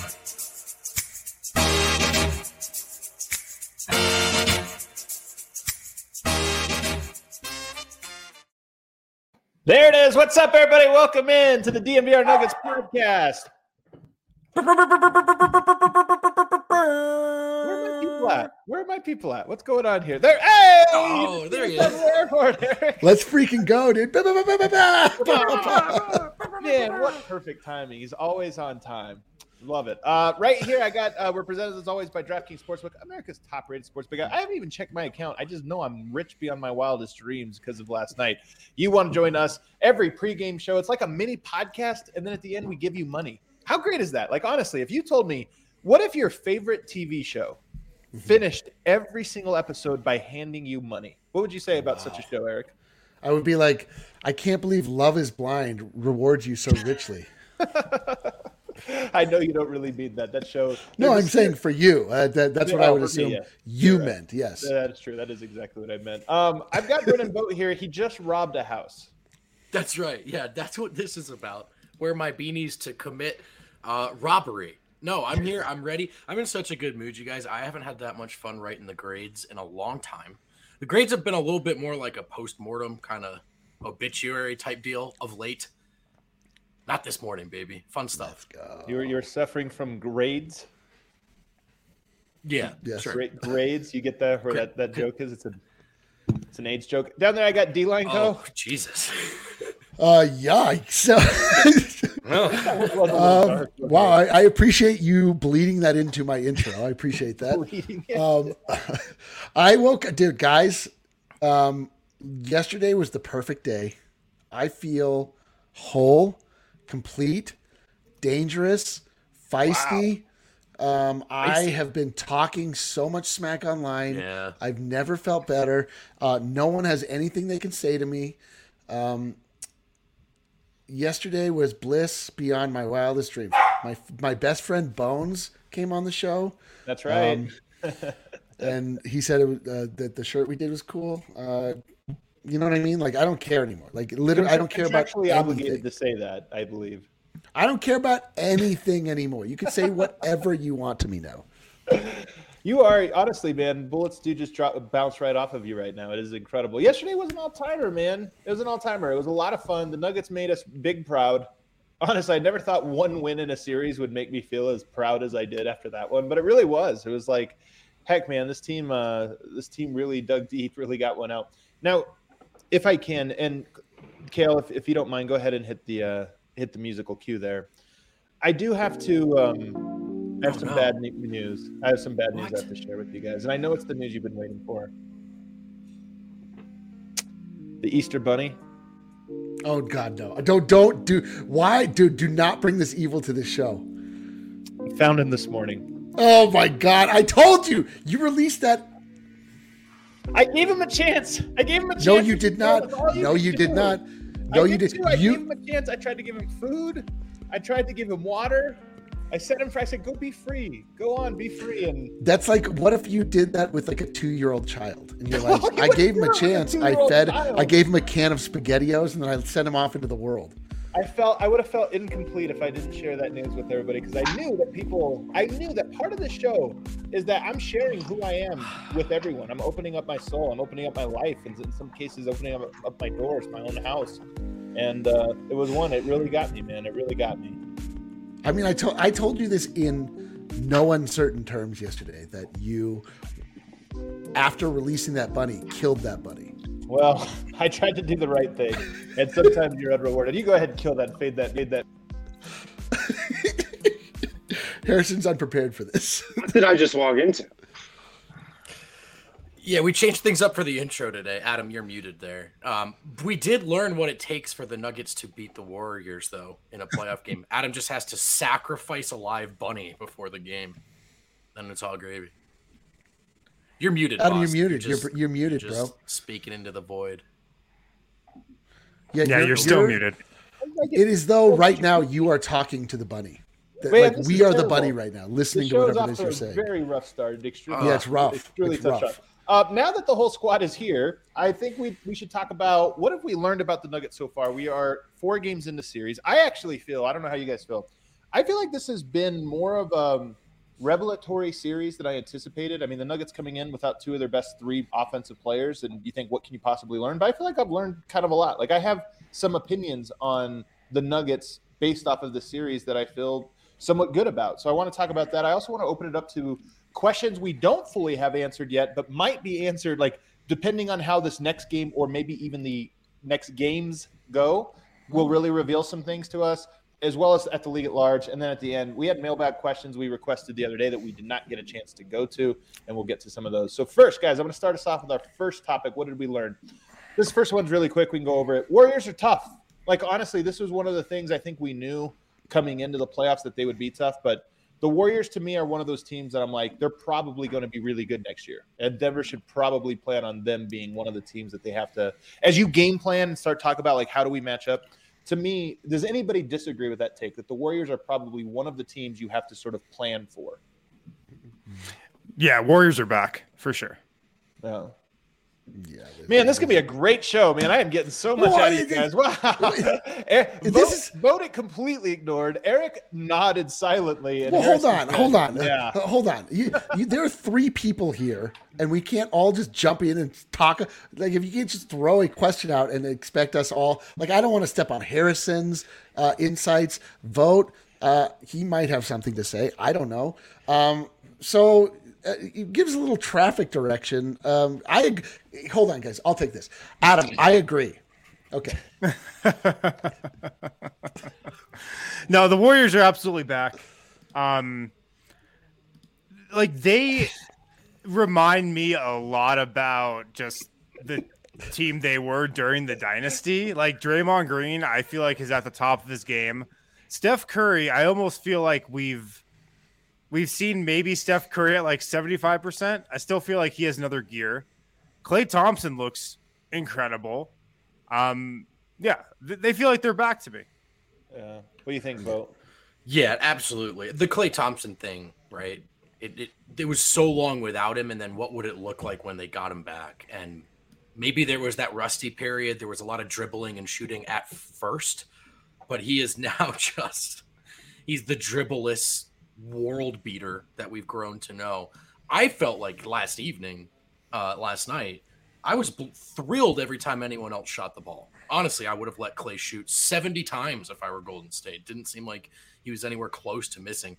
There it is. What's up, everybody? Welcome in to the DNVR Nuggets podcast. Where are my people at? What's going on here? There. Hey! Oh, there he is. Let's freaking go, dude. Man, what perfect timing. He's always on time. Love it. Right here, I got, we're presented as always by DraftKings Sportsbook, America's top-rated sportsbook. I haven't even checked my account. I just know I'm rich beyond my wildest dreams because of last night. You want to join us every pregame show. It's like a mini podcast, and then at the end, we give you money. How great is that? Like, honestly, if you told me, what if your favorite TV show finished every single episode by handing you money? What would you say about such a show, Eric? I would be like, I can't believe Love is Blind rewards you so richly. I know you don't really mean that. That show. No, I'm saying for you. That's what I would assume you right. meant. Yes. That is true. That is exactly what I meant. I've got Brennan Boat here. He just robbed a house. That's right. Yeah, that's what this is about. Wear my beanies to commit robbery. No, I'm here. I'm ready. I'm in such a good mood, you guys. I haven't had that much fun writing the grades in a long time. The grades have been a little bit more like a post-mortem kind of obituary type deal of late. Not this morning, baby. Fun stuff. You're suffering from grades? Yeah, yes. Sure. Grades? You get that where that joke is? It's an AIDS joke. Down there, I got D-Line Co. Oh, Jesus. Yikes. Wow, I appreciate you bleeding that into my intro. I appreciate that. I woke, dude, guys. Yesterday was the perfect day. I feel whole, complete, dangerous, feisty. Wow. I have been talking so much smack online. Yeah. I've never felt better. No one has anything they can say to me. Yesterday was bliss beyond my wildest dreams. My best friend Bones came on the show. That's right. And he said that the shirt we did was cool. You know what I mean? Like, I don't care anymore. Like, literally, I don't care about anything. Obligated to say that, I believe. I don't care about anything anymore. You can say whatever you want to me now. You are, honestly, man, bullets do just bounce right off of you right now. It is incredible. Yesterday was an all-timer, man. It was an all-timer. It was a lot of fun. The Nuggets made us big proud. Honestly, I never thought one win in a series would make me feel as proud as I did after that one, but it really was. It was like, heck, man, this team really dug deep, really got one out. Now, if I can, and Kale, if you don't mind, go ahead and hit the musical cue there. I do have to I have some bad news. I have some bad news I have to share with you guys, and I know it's the news you've been waiting for. The Easter Bunny. Oh God, no! Don't do. Why, dude? Do not bring this evil to this show. I found him this morning. Oh my God! I told you. You released that. I gave him a chance. No, you did not. No, you did not. No, you did. I gave him a chance. I tried to give him food. I tried to give him water. I said, go be free. Go on, be free. And that's like, what if you did that with like a 2-year-old child? And you're like, I gave him a chance. I gave him a can of SpaghettiOs, and then I sent him off into the world. I would have felt incomplete if I didn't share that news with everybody, because I knew that part of the show is that I'm sharing who I am with everyone. I'm opening up my soul. I'm opening up my life. And in some cases, opening up my doors, my own house. And it was one. It really got me, man. It really got me. I mean, I told you this in no uncertain terms yesterday, that you, after releasing that bunny, killed that bunny. Well, I tried to do the right thing, and sometimes you're unrewarded. You go ahead and kill that, fade that. Harrison's unprepared for this. What did I just walk into? Yeah, we changed things up for the intro today. Adam, you're muted there. We did learn what it takes for the Nuggets to beat the Warriors, though, in a playoff game. Adam just has to sacrifice a live bunny before the game. Then it's all gravy. You're muted, Adam, boss. you're muted. You're muted, just bro. Speaking into the void. Yeah, you're still muted. It is though right now you are talking to the bunny. Man, like we are the bunny right now, listening to whatever it is you're saying. Very rough start. Yeah, it's rough. It's rough. Now that the whole squad is here, I think we should talk about what have we learned about the Nuggets so far. We are 4 games into series. I actually feel, I don't know how you guys feel, I feel like this has been more of a revelatory series than I anticipated. I mean, the Nuggets coming in without two of their best three offensive players, and you think, what can you possibly learn? But I feel like I've learned kind of a lot. Like, I have some opinions on the Nuggets based off of the series that I feel somewhat good about. So I want to talk about that. I also want to open it up to questions we don't fully have answered yet, but might be answered, like, depending on how this next game or maybe even the next games go, will really reveal some things to us, as well as at the league at large. And then at the end, we had mailbag questions we requested the other day that we did not get a chance to go to, and we'll get to some of those. So first, guys, I'm going to start us off with our first topic. What did we learn? This first one's really quick. We can go over it. Warriors are tough. Like, honestly, this was one of the things I think we knew coming into the playoffs that they would be tough. But the Warriors, to me, are one of those teams that I'm like, they're probably going to be really good next year. And Denver should probably plan on them being one of the teams that they have to, as you game plan and start talking about, like, how do we match up? To me, does anybody disagree with that take, that the Warriors are probably one of the teams you have to sort of plan for? Yeah, Warriors are back for sure. Yeah. Yeah, Man, this could be a great show, man. I am getting so much out of you guys. Wow. Vote it completely ignored. Eric nodded silently. And well, hold on. Yeah. Hold on. There are three people here, and we can't all just jump in and talk. Like, if you can't just throw a question out and expect us all. Like, I don't want to step on Harrison's insights. Vote. He might have something to say. I don't know. So it gives a little traffic direction. Hold on, guys. I'll take this. Adam, I agree. Okay. No, the Warriors are absolutely back. Like, they remind me a lot about just the team they were during the dynasty. Like, Draymond Green, I feel like, is at the top of his game. Steph Curry, I almost feel like we've seen maybe Steph Curry at like 75%. I still feel like he has another gear. Klay Thompson looks incredible. Yeah, they feel like they're back to me. Yeah. What do you think, Bo? Yeah, absolutely. The Klay Thompson thing, right? It was so long without him, and then what would it look like when they got him back? And maybe there was that rusty period. There was a lot of dribbling and shooting at first, but he is now he's the dribbleless world beater that we've grown to know. I felt like last night, I was thrilled every time anyone else shot the ball. Honestly, I would have let Klay shoot 70 times if I were Golden State. Didn't seem like he was anywhere close to missing.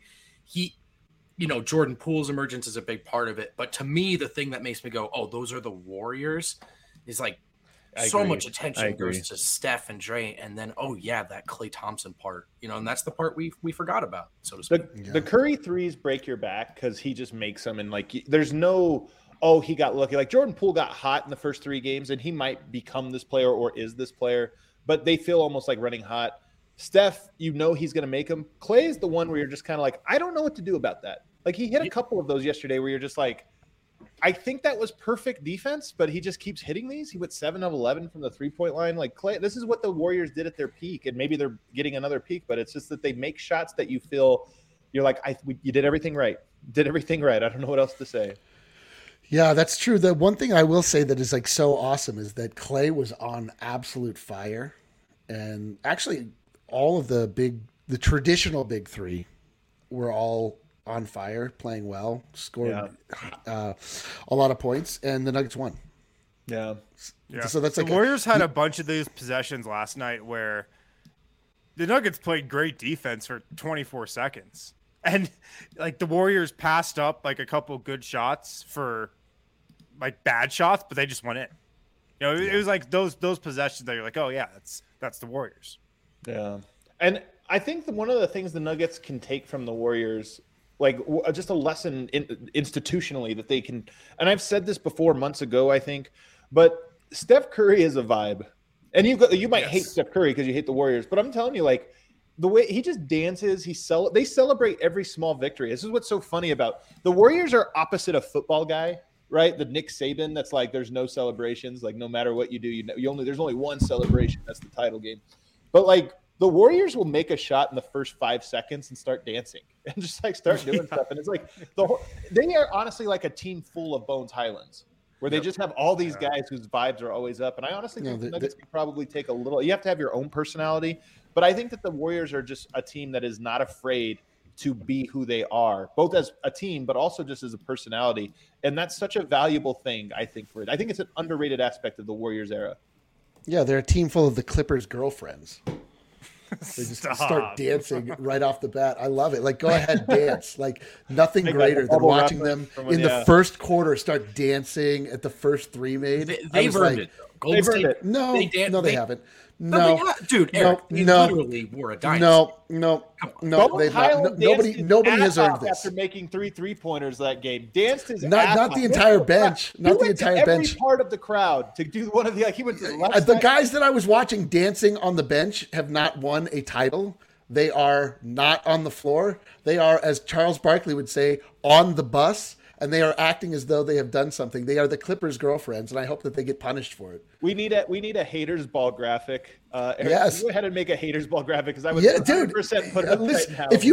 Jordan Poole's emergence is a big part of it. But to me, the thing that makes me go, oh, those are the Warriors, is like so much attention goes to Steph and Dre. And then, oh, yeah, that Klay Thompson part, and that's the part we forgot about, so to speak. The Curry threes break your back because he just makes them. And, like, there's no – oh, he got lucky. Like, Jordan Poole got hot in the first three games, and he might become this player or is this player, but they feel almost like running hot. Steph, he's going to make them. Klay is the one where you're just kind of like, I don't know what to do about that. Like, he hit a couple of those yesterday where you're just like, I think that was perfect defense, but he just keeps hitting these. He went 7 of 11 from the three-point line. Like, Klay, this is what the Warriors did at their peak, and maybe they're getting another peak, but it's just that they make shots that you feel you're like, you did everything right. Did everything right. I don't know what else to say. Yeah, that's true. The one thing I will say that is like so awesome is that Klay was on absolute fire, and actually all of the traditional big three were all on fire, playing well, scored a lot of points, and the Nuggets won. Yeah. So that's the Warriors had a bunch of those possessions last night where the Nuggets played great defense for 24 seconds. And like the Warriors passed up like a couple good shots for like bad shots, but they just went in. It was like those possessions that you're like, oh yeah, that's the Warriors. Yeah. And I think one of the things the Nuggets can take from the Warriors, like just a lesson institutionally that they can, and I've said this before months ago, I think, but Steph Curry is a vibe. And you might hate Steph Curry because you hate the Warriors, but I'm telling you, like, the way he just dances, they celebrate every small victory. This is what's so funny about the Warriors are opposite of football guy, right? The Nick Saban that's like there's no celebrations, like no matter what you do, there's only one celebration, that's the title game. But like the Warriors will make a shot in the first 5 seconds and start dancing and just like start doing stuff. And it's like they are honestly like a team full of Bones Highlands, where they just have all these guys whose vibes are always up. And I honestly think the Nuggets can probably take a little – you have to have your own personality. But I think that the Warriors are just a team that is not afraid to be who they are, both as a team, but also just as a personality. And that's such a valuable thing, I think, for it. I think it's an underrated aspect of the Warriors era. Yeah, they're a team full of the Clippers' girlfriends. They just start dancing right off the bat. I love it. Like, go ahead, dance. Like, nothing greater than watching them in the first quarter start dancing at the first three made. They've earned it. They've earned it. No, they haven't. No, dude, Eric, they literally were a dynasty. No, they've not. Nobody has earned this. After making 3-3-pointers that game, danced his not the entire bench, not the entire bench. Every part of the crowd to do one of the. He went to the left. The guys that I was watching dancing on the bench have not won a title. They are not on the floor. They are, as Charles Barkley would say, on the bus. And they are acting as though they have done something. They are the Clippers' girlfriends, and I hope that they get punished for it. We need a haters ball graphic. Eric, yes, go ahead and make a haters ball graphic because I would 100% put it up right now. If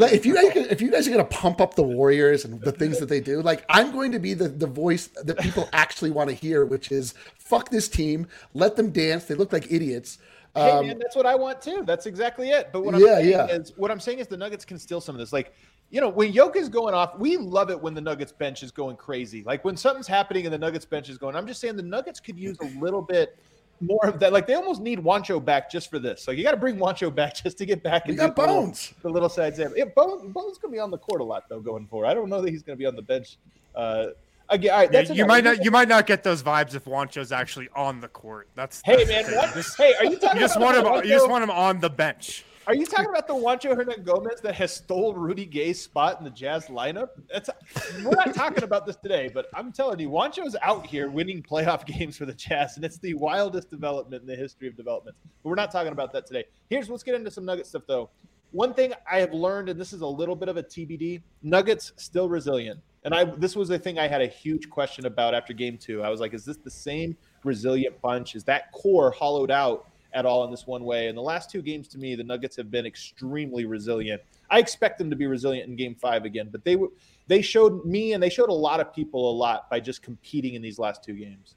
you guys are gonna pump up the Warriors and the things that they do, like I'm going to be the voice that people actually want to hear, which is fuck this team, let them dance. They look like idiots. Hey man, that's what I want too. That's exactly it. But what I'm saying is the Nuggets can steal some of this. Like, you know, when Jokic is going off, we love it when the Nuggets bench is going crazy. Like when something's happening and the Nuggets bench is going, I'm just saying the Nuggets could use a little bit more of that. Like they almost need Juancho back just for this. Like you got to bring Juancho back just to get back. You got Bones. The little sides. Yeah, Bones going to be on the court a lot though going forward. I don't know that he's going to be on the bench. Again, all right, you might not get those vibes if Juancho's actually on the court. Hey man, hey, are you talking? You just want him on the bench. Are you talking about the Juancho Hernangomez that has stole Rudy Gay's spot in the Jazz lineup? We're not talking about this today, but I'm telling you, Juancho's out here winning playoff games for the Jazz, and it's the wildest development in the history of developments. But we're not talking about that today. Let's get into some Nugget stuff, though. One thing I have learned, and this is a little bit of a TBD, Nuggets still resilient. And this was a thing I had a huge question about after game 2. I was like, is this the same resilient bunch? Is that core hollowed out at all in this one way? And the last 2 games, to me, the Nuggets have been extremely resilient. I expect them to be resilient in game 5 again, but they showed me and they showed a lot of people a lot by just competing in these last 2 games.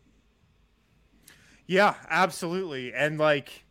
Yeah, absolutely. And like,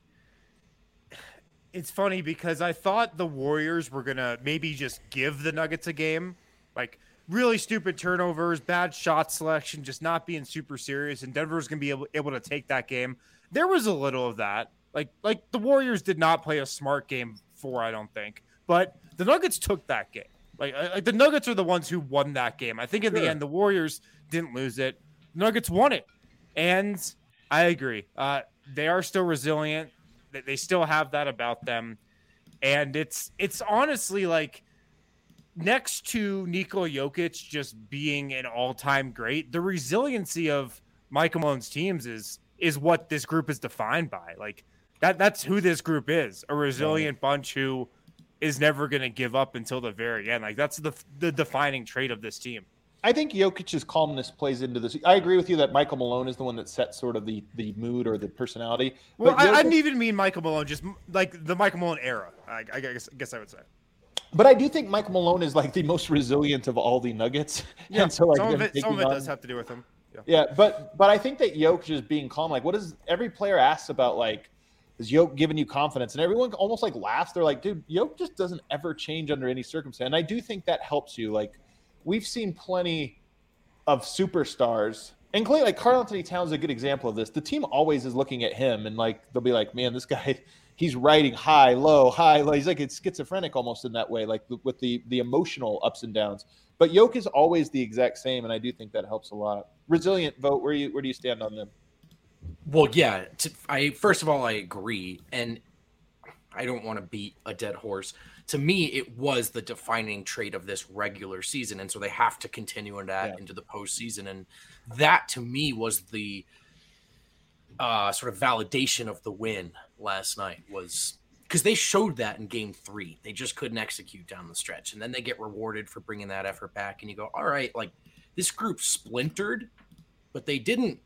it's funny because I thought the Warriors were going to maybe just give the Nuggets a game, like really stupid turnovers, bad shot selection, just not being super serious. And Denver was going to be able to take that game. There was a little of that. Like the Warriors did not play a smart game 4, I don't think. But the Nuggets took that game. Like the Nuggets are the ones who won that game. I think in the end, the Warriors didn't lose it. The Nuggets won it. And I agree. They are still resilient. They still have that about them. And it's honestly like next to Nikola Jokic just being an all-time great, the resiliency of Michael Malone's teams is what this group is defined by. Like that's who this group is, a resilient bunch who is never going to give up until the very end. Like that's the defining trait of this team. I think Jokic's calmness plays into this. I agree with you that Michael Malone is the one that sets sort of the mood or the personality. Well, I didn't even mean Michael Malone, just like the Michael Malone era, I guess I would say. But I do think Michael Malone is like the most resilient of all the Nuggets. Yeah, and so like some of it does have to do with him. Yeah, but I think that Jokic is being calm. Like, what is every player asks about? Like, is Jokic giving you confidence? And everyone almost like laughs. They're like, dude, Jokic just doesn't ever change under any circumstance. And I do think that helps you. Like, we've seen plenty of superstars, and clearly, like Karl Anthony Towns is a good example of this. The team always is looking at him, and like they'll be like, man, this guy. He's riding high, low, high, low. He's like it's schizophrenic almost in that way, like with the emotional ups and downs. But Jokic is always the exact same, and I do think that helps a lot. Resilient vote. Where do you stand on them? Well, yeah. First of all, I agree, and I don't want to beat a dead horse. To me, it was the defining trait of this regular season, and so they have to continue into the postseason. And that, to me, was the sort of validation of the win last night, was because they showed that in game 3. They just couldn't execute down the stretch, and then they get rewarded for bringing that effort back. And you go, all right, like this group splintered, but they didn't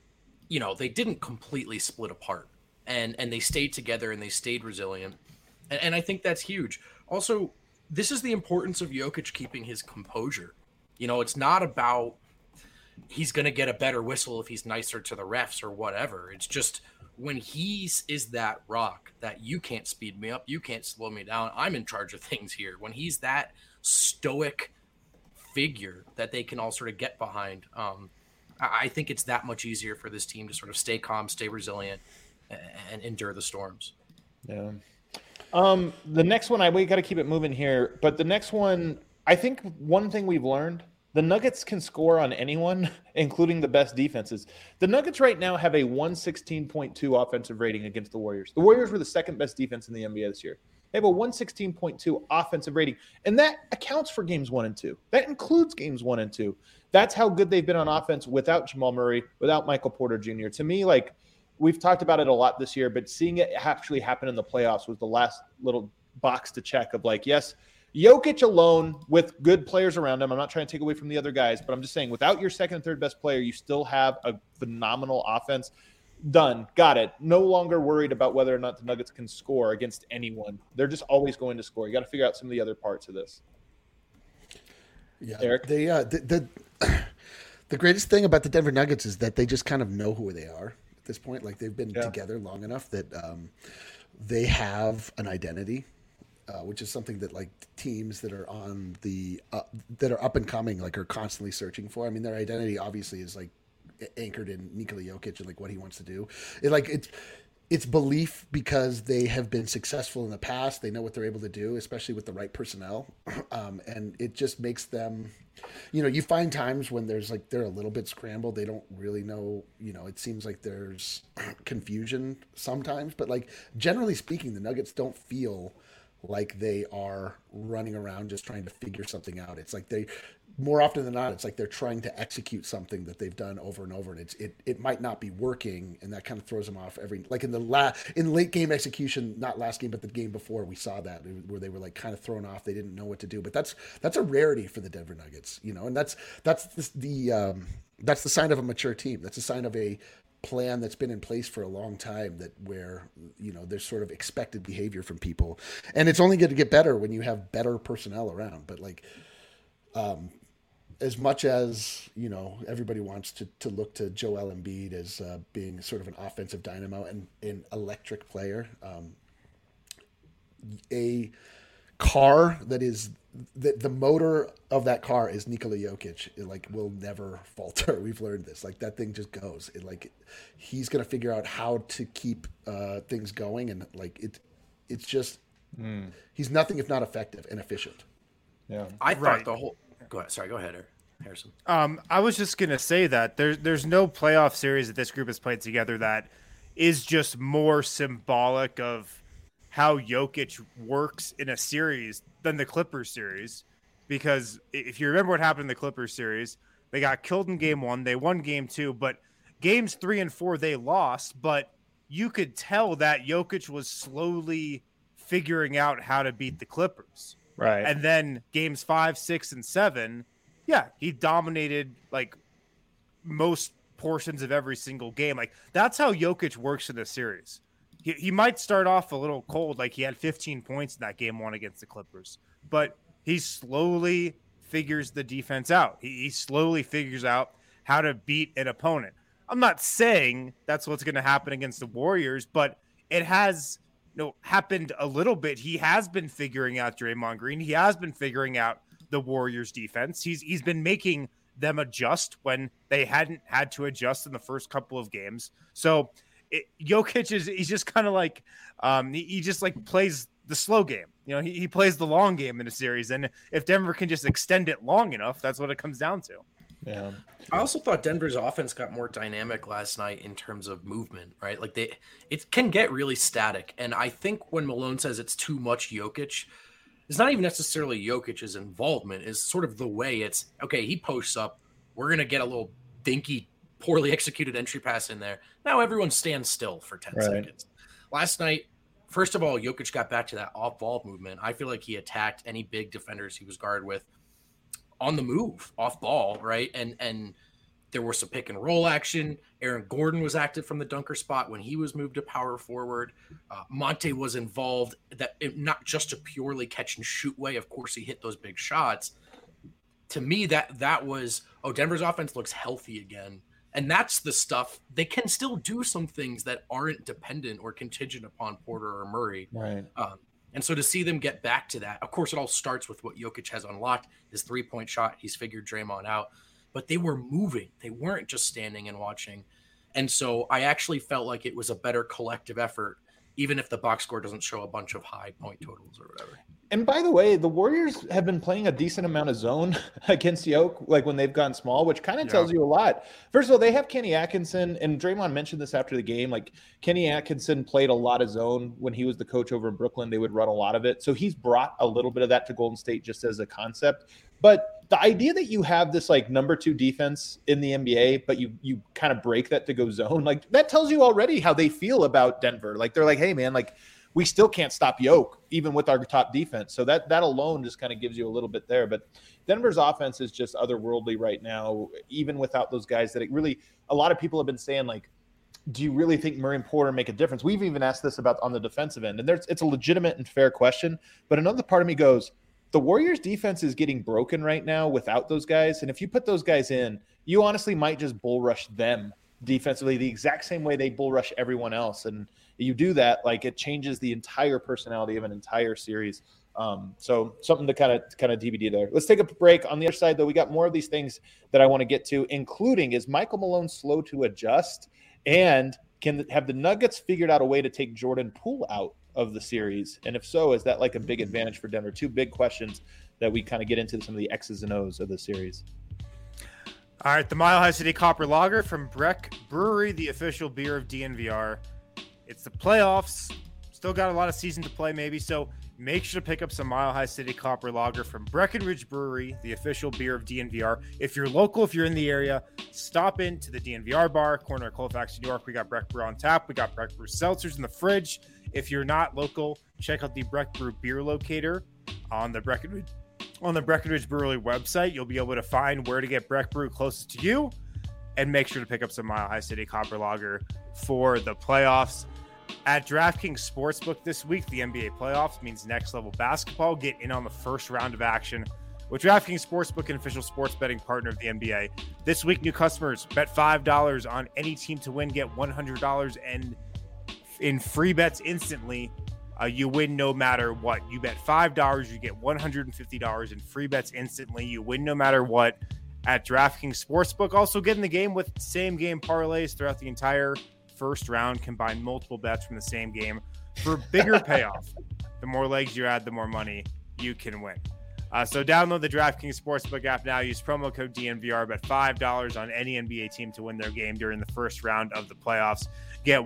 completely split apart, and they stayed together and they stayed resilient. And I think that's huge. Also, this is the importance of Jokic keeping his composure. You know, it's not about he's going to get a better whistle if he's nicer to the refs or whatever. It's just when he is that rock that you can't speed me up, you can't slow me down, I'm in charge of things here. When he's that stoic figure that they can all sort of get behind, I think it's that much easier for this team to sort of stay calm, stay resilient, and endure the storms. Yeah. The next one, we got to keep it moving here, but the next one, I think one thing we've learned, the Nuggets can score on anyone, including the best defenses. The Nuggets right now have a 116.2 offensive rating against the Warriors. The Warriors were the second best defense in the NBA this year. They have a 116.2 offensive rating, and that accounts for games 1 and 2. That includes games 1 and 2. That's how good they've been on offense without Jamal Murray, without Michael Porter Jr. To me, like, we've talked about it a lot this year, but seeing it actually happen in the playoffs was the last little box to check of like, yes, Jokic alone with good players around him. I'm not trying to take away from the other guys, but I'm just saying without your second and third best player, you still have a phenomenal offense. Done. Got it. No longer worried about whether or not the Nuggets can score against anyone. They're just always going to score. You got to figure out some of the other parts of this. Yeah, Eric? The greatest thing about the Denver Nuggets is that they just kind of know who they are at this point. Like they've been together long enough that they have an identity. Which is something that like teams that are on the that are up and coming like are constantly searching for. I mean, their identity obviously is like anchored in Nikola Jokic and like what he wants to do. It's belief because they have been successful in the past. They know what they're able to do, especially with the right personnel, and it just makes them. You know, you find times when there's like they're a little bit scrambled. They don't really know. You know, it seems like there's confusion sometimes, but like generally speaking, the Nuggets don't feel like they are running around just trying to figure something out. It's like they, more often than not, it's like they're trying to execute something that they've done over and over, and it might not be working, and that kind of throws them off every. Like in late game execution, not last game, but the game before, we saw that where they were like kind of thrown off. They didn't know what to do, but that's a rarity for the Denver Nuggets, you know, and that's the sign of a mature team. That's a sign of a plan that's been in place for a long time, that where, you know, there's sort of expected behavior from people, and it's only going to get better when you have better personnel around. But like as much as, you know, everybody wants to look to Joel Embiid as being sort of an offensive dynamo and an electric player, a car that is the motor of that car is Nikola Jokic. It like will never falter. We've learned this. Like that thing just goes. He's gonna figure out how to keep things going, and like it's just he's nothing if not effective and efficient. Yeah, I thought the whole. Go ahead. Sorry, go ahead, Harrison. I was just gonna say that there's no playoff series that this group has played together that is just more symbolic of how Jokic works in a series than the Clippers series. Because if you remember what happened in the Clippers series, they got killed in game 1, they won game 2, but games 3 and 4 they lost, but you could tell that Jokic was slowly figuring out how to beat the Clippers. Right. And then games 5, 6, and 7, he dominated like most portions of every single game. Like that's how Jokic works in the series. He might start off a little cold, like he had 15 points in that game 1 against the Clippers, but he slowly figures the defense out. He slowly figures out how to beat an opponent. I'm not saying that's what's going to happen against the Warriors, but it has happened a little bit. He has been figuring out Draymond Green. He has been figuring out the Warriors defense. He's been making them adjust when they hadn't had to adjust in the first couple of games. So Jokic he's just kind of like he just like plays the slow game. You know, he plays the long game in a series, and if Denver can just extend it long enough, that's what it comes down to. Yeah. I also thought Denver's offense got more dynamic last night in terms of movement, right? Like it can get really static, and I think when Malone says it's too much Jokic, it's not even necessarily Jokic's involvement. It's sort of the way it's okay. He posts up. We're gonna get a little dinky, poorly executed entry pass in there. Now everyone stands still for 10 seconds. Last night, first of all, Jokic got back to that off-ball movement. I feel like he attacked any big defenders he was guarded with on the move, off ball, right? And there was some pick and roll action. Aaron Gordon was active from the dunker spot when he was moved to power forward. Monte was involved not just a purely catch and shoot way. Of course, he hit those big shots. To me, that was, Denver's offense looks healthy again. And that's the stuff. They can still do some things that aren't dependent or contingent upon Porter or Murray. Right. And so to see them get back to that, of course, it all starts with what Jokic has unlocked, his 3-point shot. He's figured Draymond out. But they were moving. They weren't just standing and watching. And so I actually felt like it was a better collective effort, even if the box score doesn't show a bunch of high point totals or whatever. And by the way, the Warriors have been playing a decent amount of zone against Yoke, like when they've gone small, which kind of tells you a lot. First of all, they have Kenny Atkinson, and Draymond mentioned this after the game. Like Kenny Atkinson played a lot of zone when he was the coach over in Brooklyn. They would run a lot of it. So he's brought a little bit of that to Golden State just as a concept. But the idea that you have this like number 2 defense in the NBA, but you kind of break that to go zone, like that tells you already how they feel about Denver. Like they're like, hey man, like we still can't stop Yoke even with our top defense. So that alone just kind of gives you a little bit there. But Denver's offense is just otherworldly right now, even without those guys that it really, a lot of people have been saying like, do you really think Murray and Porter make a difference? We've even asked this about on the defensive end, and it's a legitimate and fair question. But another part of me goes, the Warriors defense is getting broken right now without those guys. And if you put those guys in, you honestly might just bull rush them defensively the exact same way they bull rush everyone else. And you do that, like it changes the entire personality of an entire series. So something to kind of DVD there. Let's take a break. On the other side, though, we got more of these things that I want to get to, including is Michael Malone slow to adjust? And have the Nuggets figured out a way to take Jordan Poole out of the series? And if so, is that like a big advantage for Denver? 2 big questions that we kind of get into some of the X's and O's of the series. All right, the Mile High City Copper Lager from Breck Brewery, the official beer of DNVR. It's the playoffs. Still got a lot of season to play, maybe. So make sure to pick up some Mile High City Copper Lager from Breckenridge Brewery, the official beer of DNVR. If you're local, if you're in the area, stop into the DNVR bar, corner of Colfax, New York. We got Breck Brew on tap. We got Breck Brew seltzers in the fridge. If you're not local, check out the Breck Brew beer locator on the Breckenridge Brewery website. You'll be able to find where to get Breck Brew closest to you, and make sure to pick up some Mile High City Copper Lager for the playoffs. At DraftKings Sportsbook this week, the NBA playoffs means next level basketball. Get in on the first round of action with DraftKings Sportsbook, an official sports betting partner of the NBA. This week, new customers bet $5 on any team to win, get $100 and in free bets instantly. You win no matter what. You bet $5, you get $150 in free bets instantly. You win no matter what at DraftKings Sportsbook. Also get in the game with same game parlays throughout the entire first round. Combine multiple bets from the same game for bigger payoff. The more legs you add, the more money you can win. So download the DraftKings Sportsbook app now. Use promo code DNVR. Bet $5 on any NBA team to win their game during the first round of the playoffs. Get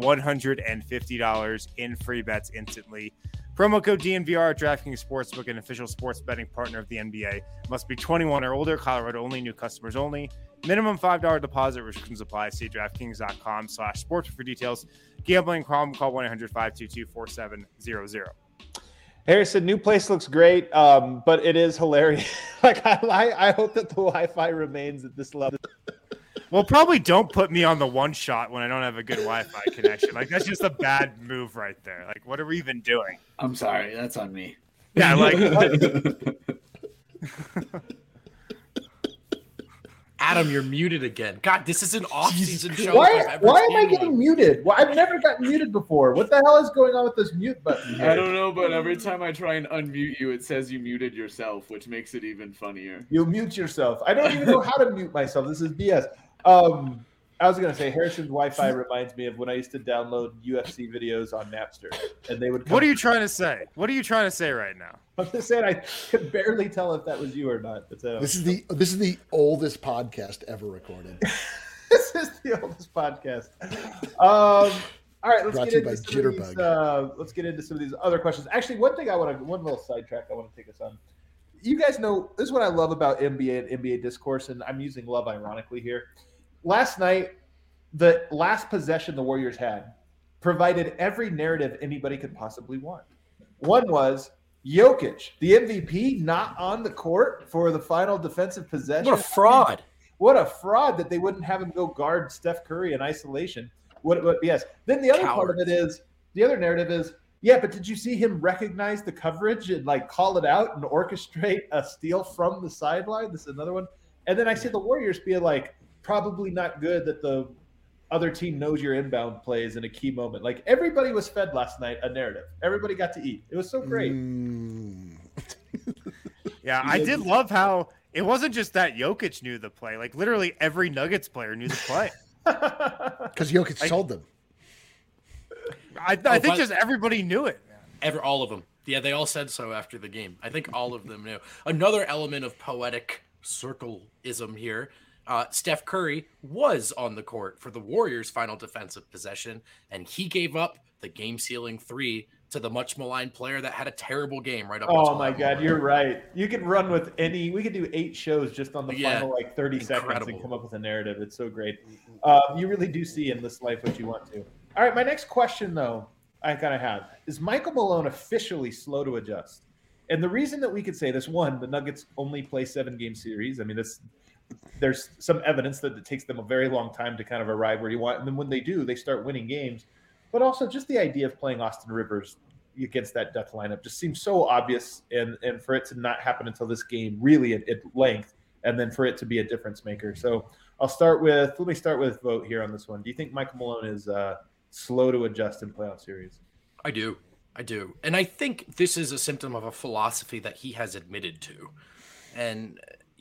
$150 in free bets instantly. Promo code DNVR at DraftKings Sportsbook, an official sports betting partner of the NBA. Must be 21 or older. Colorado only. New customers only. Minimum $5 deposit. Restrictions apply. See DraftKings.com/sports for details. Gambling problem? Call 1-800-522-4700. Harrison, new place looks great, but it is hilarious. Like I hope that the Wi-Fi remains at this level. Well, probably don't put me on the one shot when I don't have a good Wi-Fi connection. Like that's just a bad move right there. Like what are we even doing? I'm sorry, that's on me. Yeah, like Adam, you're muted again. God, this is an off-season show. Why am I getting muted? Well, I've never gotten muted before. What the hell is going on with this mute button here? I don't know, but every time I try and unmute you, it says you muted yourself, which makes it even funnier. You mute yourself. I don't even know how to mute myself. This is BS. I was gonna say Harrison's Wi-Fi reminds me of when I used to download UFC videos on Napster, and they would. What are you trying to say? What are you trying to say right now? I'm just saying I could barely tell if that was you or not. This is the oldest podcast ever recorded. This is the oldest podcast. All right, let's get into some of these other questions. Actually, one little sidetrack I want to take us on. You guys know this is what I love about NBA and NBA discourse, and I'm using love ironically here. Last night, the last possession the Warriors had provided every narrative anybody could possibly want. One was Jokic, the MVP, not on the court for the final defensive possession. What a fraud. What a fraud that they wouldn't have him go guard Steph Curry in isolation. Yes. Then the other part of it is, the other narrative is, yeah, but did you see him recognize the coverage and like call it out and orchestrate a steal from the sideline? This is another one. And then I see the Warriors being like, probably not good that the other team knows your inbound plays in a key moment. Like everybody was fed last night a narrative. Everybody got to eat. It was so great. Yeah, I did love how it wasn't just that Jokic knew the play. Like literally every Nuggets player knew the play. Because Jokic told them. I think just everybody knew it. All of them. Yeah, they all said so after the game. I think all of them knew. Another element of poetic circleism here. Steph Curry was on the court for the Warriors' final defensive possession, and he gave up the game-sealing 3 to the much maligned player that had a terrible game right up. Oh my God, you're right. You could run with any. We could do 8 shows just on the final 30 seconds and come up with a narrative. It's so great. You really do see in this life what you want to. All right, my next question though, I kind of have is Michael Malone officially slow to adjust? And the reason that we could say this, one, the Nuggets only play 7-game series. I mean, there's some evidence that it takes them a very long time to kind of arrive where you want. And then when they do, they start winning games. But also just the idea of playing Austin Rivers against that Death lineup just seems so obvious. And for it to not happen until this game really at length, and then for it to be a difference maker. So let me start with vote here on this one. Do you think Michael Malone is slow to adjust in playoff series? I do. And I think this is a symptom of a philosophy that he has admitted to. And,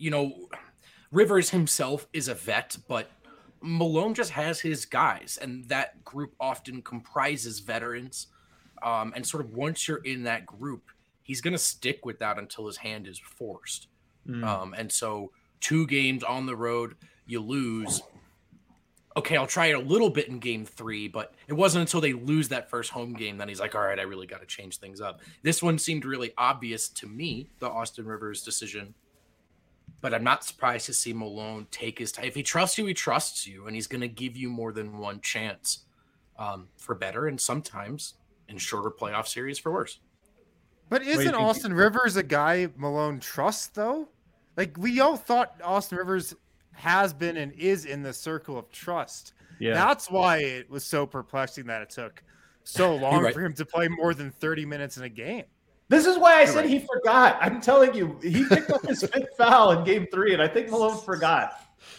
Rivers himself is a vet, but Malone just has his guys, and that group often comprises veterans. And sort of once you're in that group, he's going to stick with that until his hand is forced. And so 2 games on the road, you lose. Okay, I'll try it a little bit in game 3, but it wasn't until they lose that first home game that he's like, all right, I really got to change things up. This one seemed really obvious to me, the Austin Rivers decision. But I'm not surprised to see Malone take his time. If he trusts you, he trusts you, and he's going to give you more than one chance for better, and sometimes in shorter playoff series for worse. But isn't Austin Rivers a guy Malone trusts, though? Like, we all thought Austin Rivers has been and is in the circle of trust. Yeah. That's why it was so perplexing that it took so long for him to play more than 30 minutes in a game. This is why I said he forgot. I'm telling you, he picked up his 5th foul in game 3, and I think Malone forgot.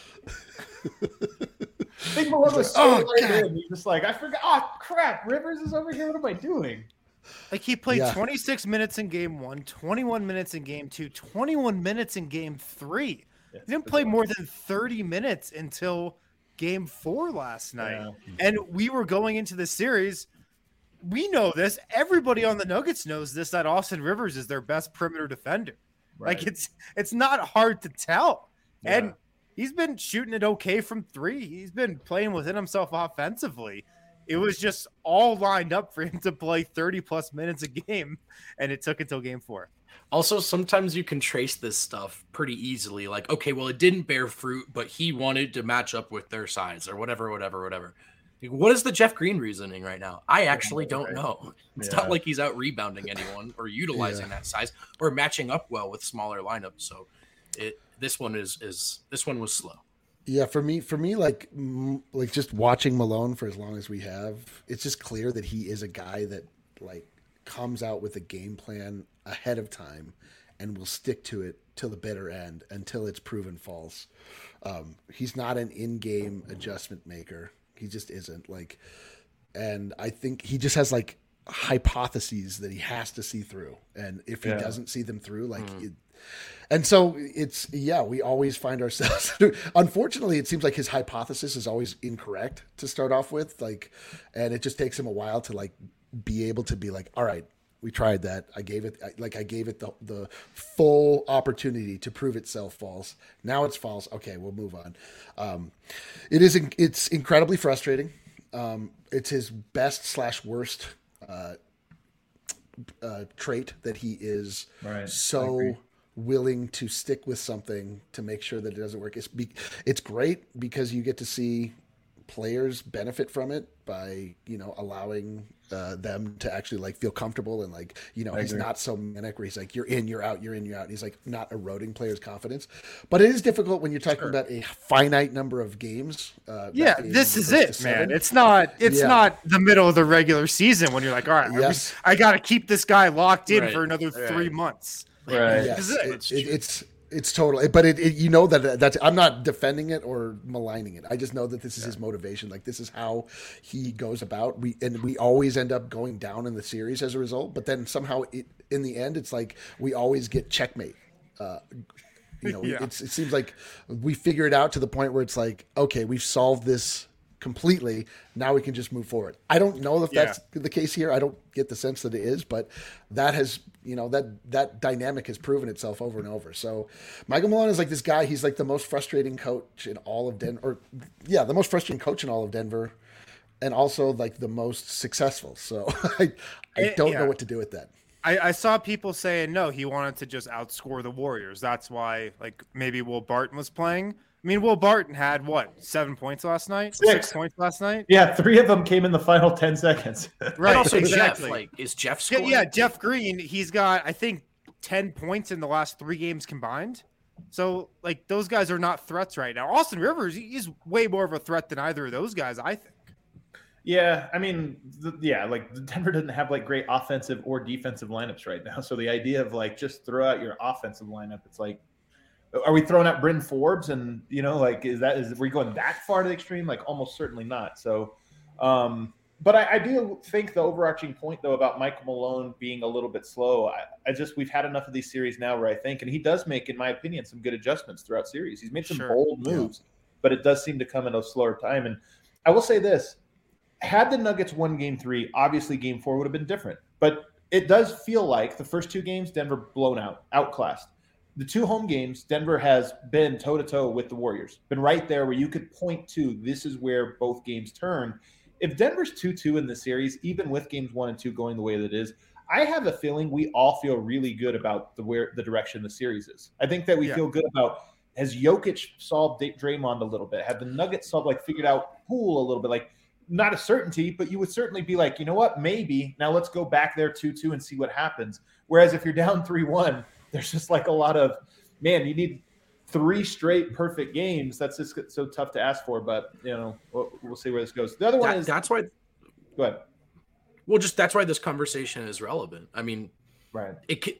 I think Malone was in. He's just like, I forgot. Oh, crap. Rivers is over here. What am I doing? Like, he played 26 minutes in game 1, 21 minutes in game 2, 21 minutes in game 3. He didn't play more than 30 minutes until game 4 last night. Yeah. And we were going into the series. We know this. Everybody on the Nuggets knows this, that Austin Rivers is their best perimeter defender. Right. Like, it's not hard to tell. Yeah. And he's been shooting it okay from 3. He's been playing within himself offensively. It was just all lined up for him to play 30-plus minutes a game, and it took until game 4. Also, sometimes you can trace this stuff pretty easily. Like, okay, well, it didn't bear fruit, but he wanted to match up with their size or whatever. What is the Jeff Green reasoning right now? I actually don't know. It's not like he's out rebounding anyone or utilizing that size or matching up well with smaller lineups. So this one was slow. Yeah, for me, like just watching Malone for as long as we have, it's just clear that he is a guy that like comes out with a game plan ahead of time and will stick to it till the bitter end until it's proven false. He's not an in-game adjustment maker. He just isn't, like, and I think he just has like hypotheses that he has to see through. And if he doesn't see them through, like, and so it's, we always find ourselves, unfortunately, it seems like his hypothesis is always incorrect to start off with. Like, and it just takes him a while to like be able to be like, all right, we tried that. I gave it the full opportunity to prove itself false. Now it's false. Okay, we'll move on. It's incredibly frustrating. It's his best/worst trait that he is so willing to stick with something to make sure that it doesn't work. It's great because you get to see players benefit from it by, allowing them to actually like feel comfortable and like, he's not so manic where he's like, you're in, you're out, you're in, you're out. And he's like not eroding players' confidence, but it is difficult when you're talking about a finite number of games. This is it, man. It's not the middle of the regular season when you're like, all right, I got to keep this guy locked in for another 3 months. Right. Yes. It's totally, but you know that's. I'm not defending it or maligning it. I just know that this is his motivation. Like this is how he goes about. We always end up going down in the series as a result. But then somehow in the end, it's like we always get checkmate. It seems like we figure it out to the point where it's like, okay, we've solved this completely. Now we can just move forward. I don't know if that's the case here. I don't get the sense that it is, but that has, that dynamic has proven itself over and over. So Michael Malone is like this guy. He's like the most frustrating coach in all of Denver, the most frustrating coach in all of Denver, and also like the most successful. So I don't know what to do with that. I saw people saying, no, he wanted to just outscore the Warriors. That's why like maybe Will Barton was playing. I mean, Will Barton had 7 points last night? 6 points last night? Yeah, 3 of them came in the final 10 seconds. Right. And also exactly. Jeff, is Jeff scoring? Yeah, Jeff Green, he's got, I think, 10 points in the last 3 games combined. So, like, those guys are not threats right now. Austin Rivers, he's way more of a threat than either of those guys, I think. Yeah, I mean, Denver doesn't have, like, great offensive or defensive lineups right now. So the idea of, like, just throw out your offensive lineup, it's like, are we throwing out Bryn Forbes and, is we going that far to the extreme? Like almost certainly not. So, but I do think the overarching point though about Michael Malone being a little bit slow, we've had enough of these series now where I think, and he does make, in my opinion, some good adjustments throughout series. He's made some bold moves, but it does seem to come in a slower time. And I will say this, had the Nuggets won game 3, obviously game 4 would have been different, but it does feel like the first 2 games, Denver blown out, outclassed. The 2 home games, Denver has been toe-to-toe with the Warriors, been right there where you could point to this is where both games turn. If Denver's 2-2 in the series, even with games 1 and 2 going the way that it is, I have a feeling we all feel really good about the direction the series is. I think that we feel good about, has Jokic solved Draymond a little bit? Have the Nuggets figured out Poole a little bit? Like, not a certainty, but you would certainly be like, you know what, maybe. Now let's go back there 2-2 and see what happens. Whereas if you're down 3-1, there's just like a lot of, man, you need 3 straight perfect games. That's just so tough to ask for, but we'll see where this goes. The other one is that's why. Go ahead. Well, that's why this conversation is relevant. I mean, right.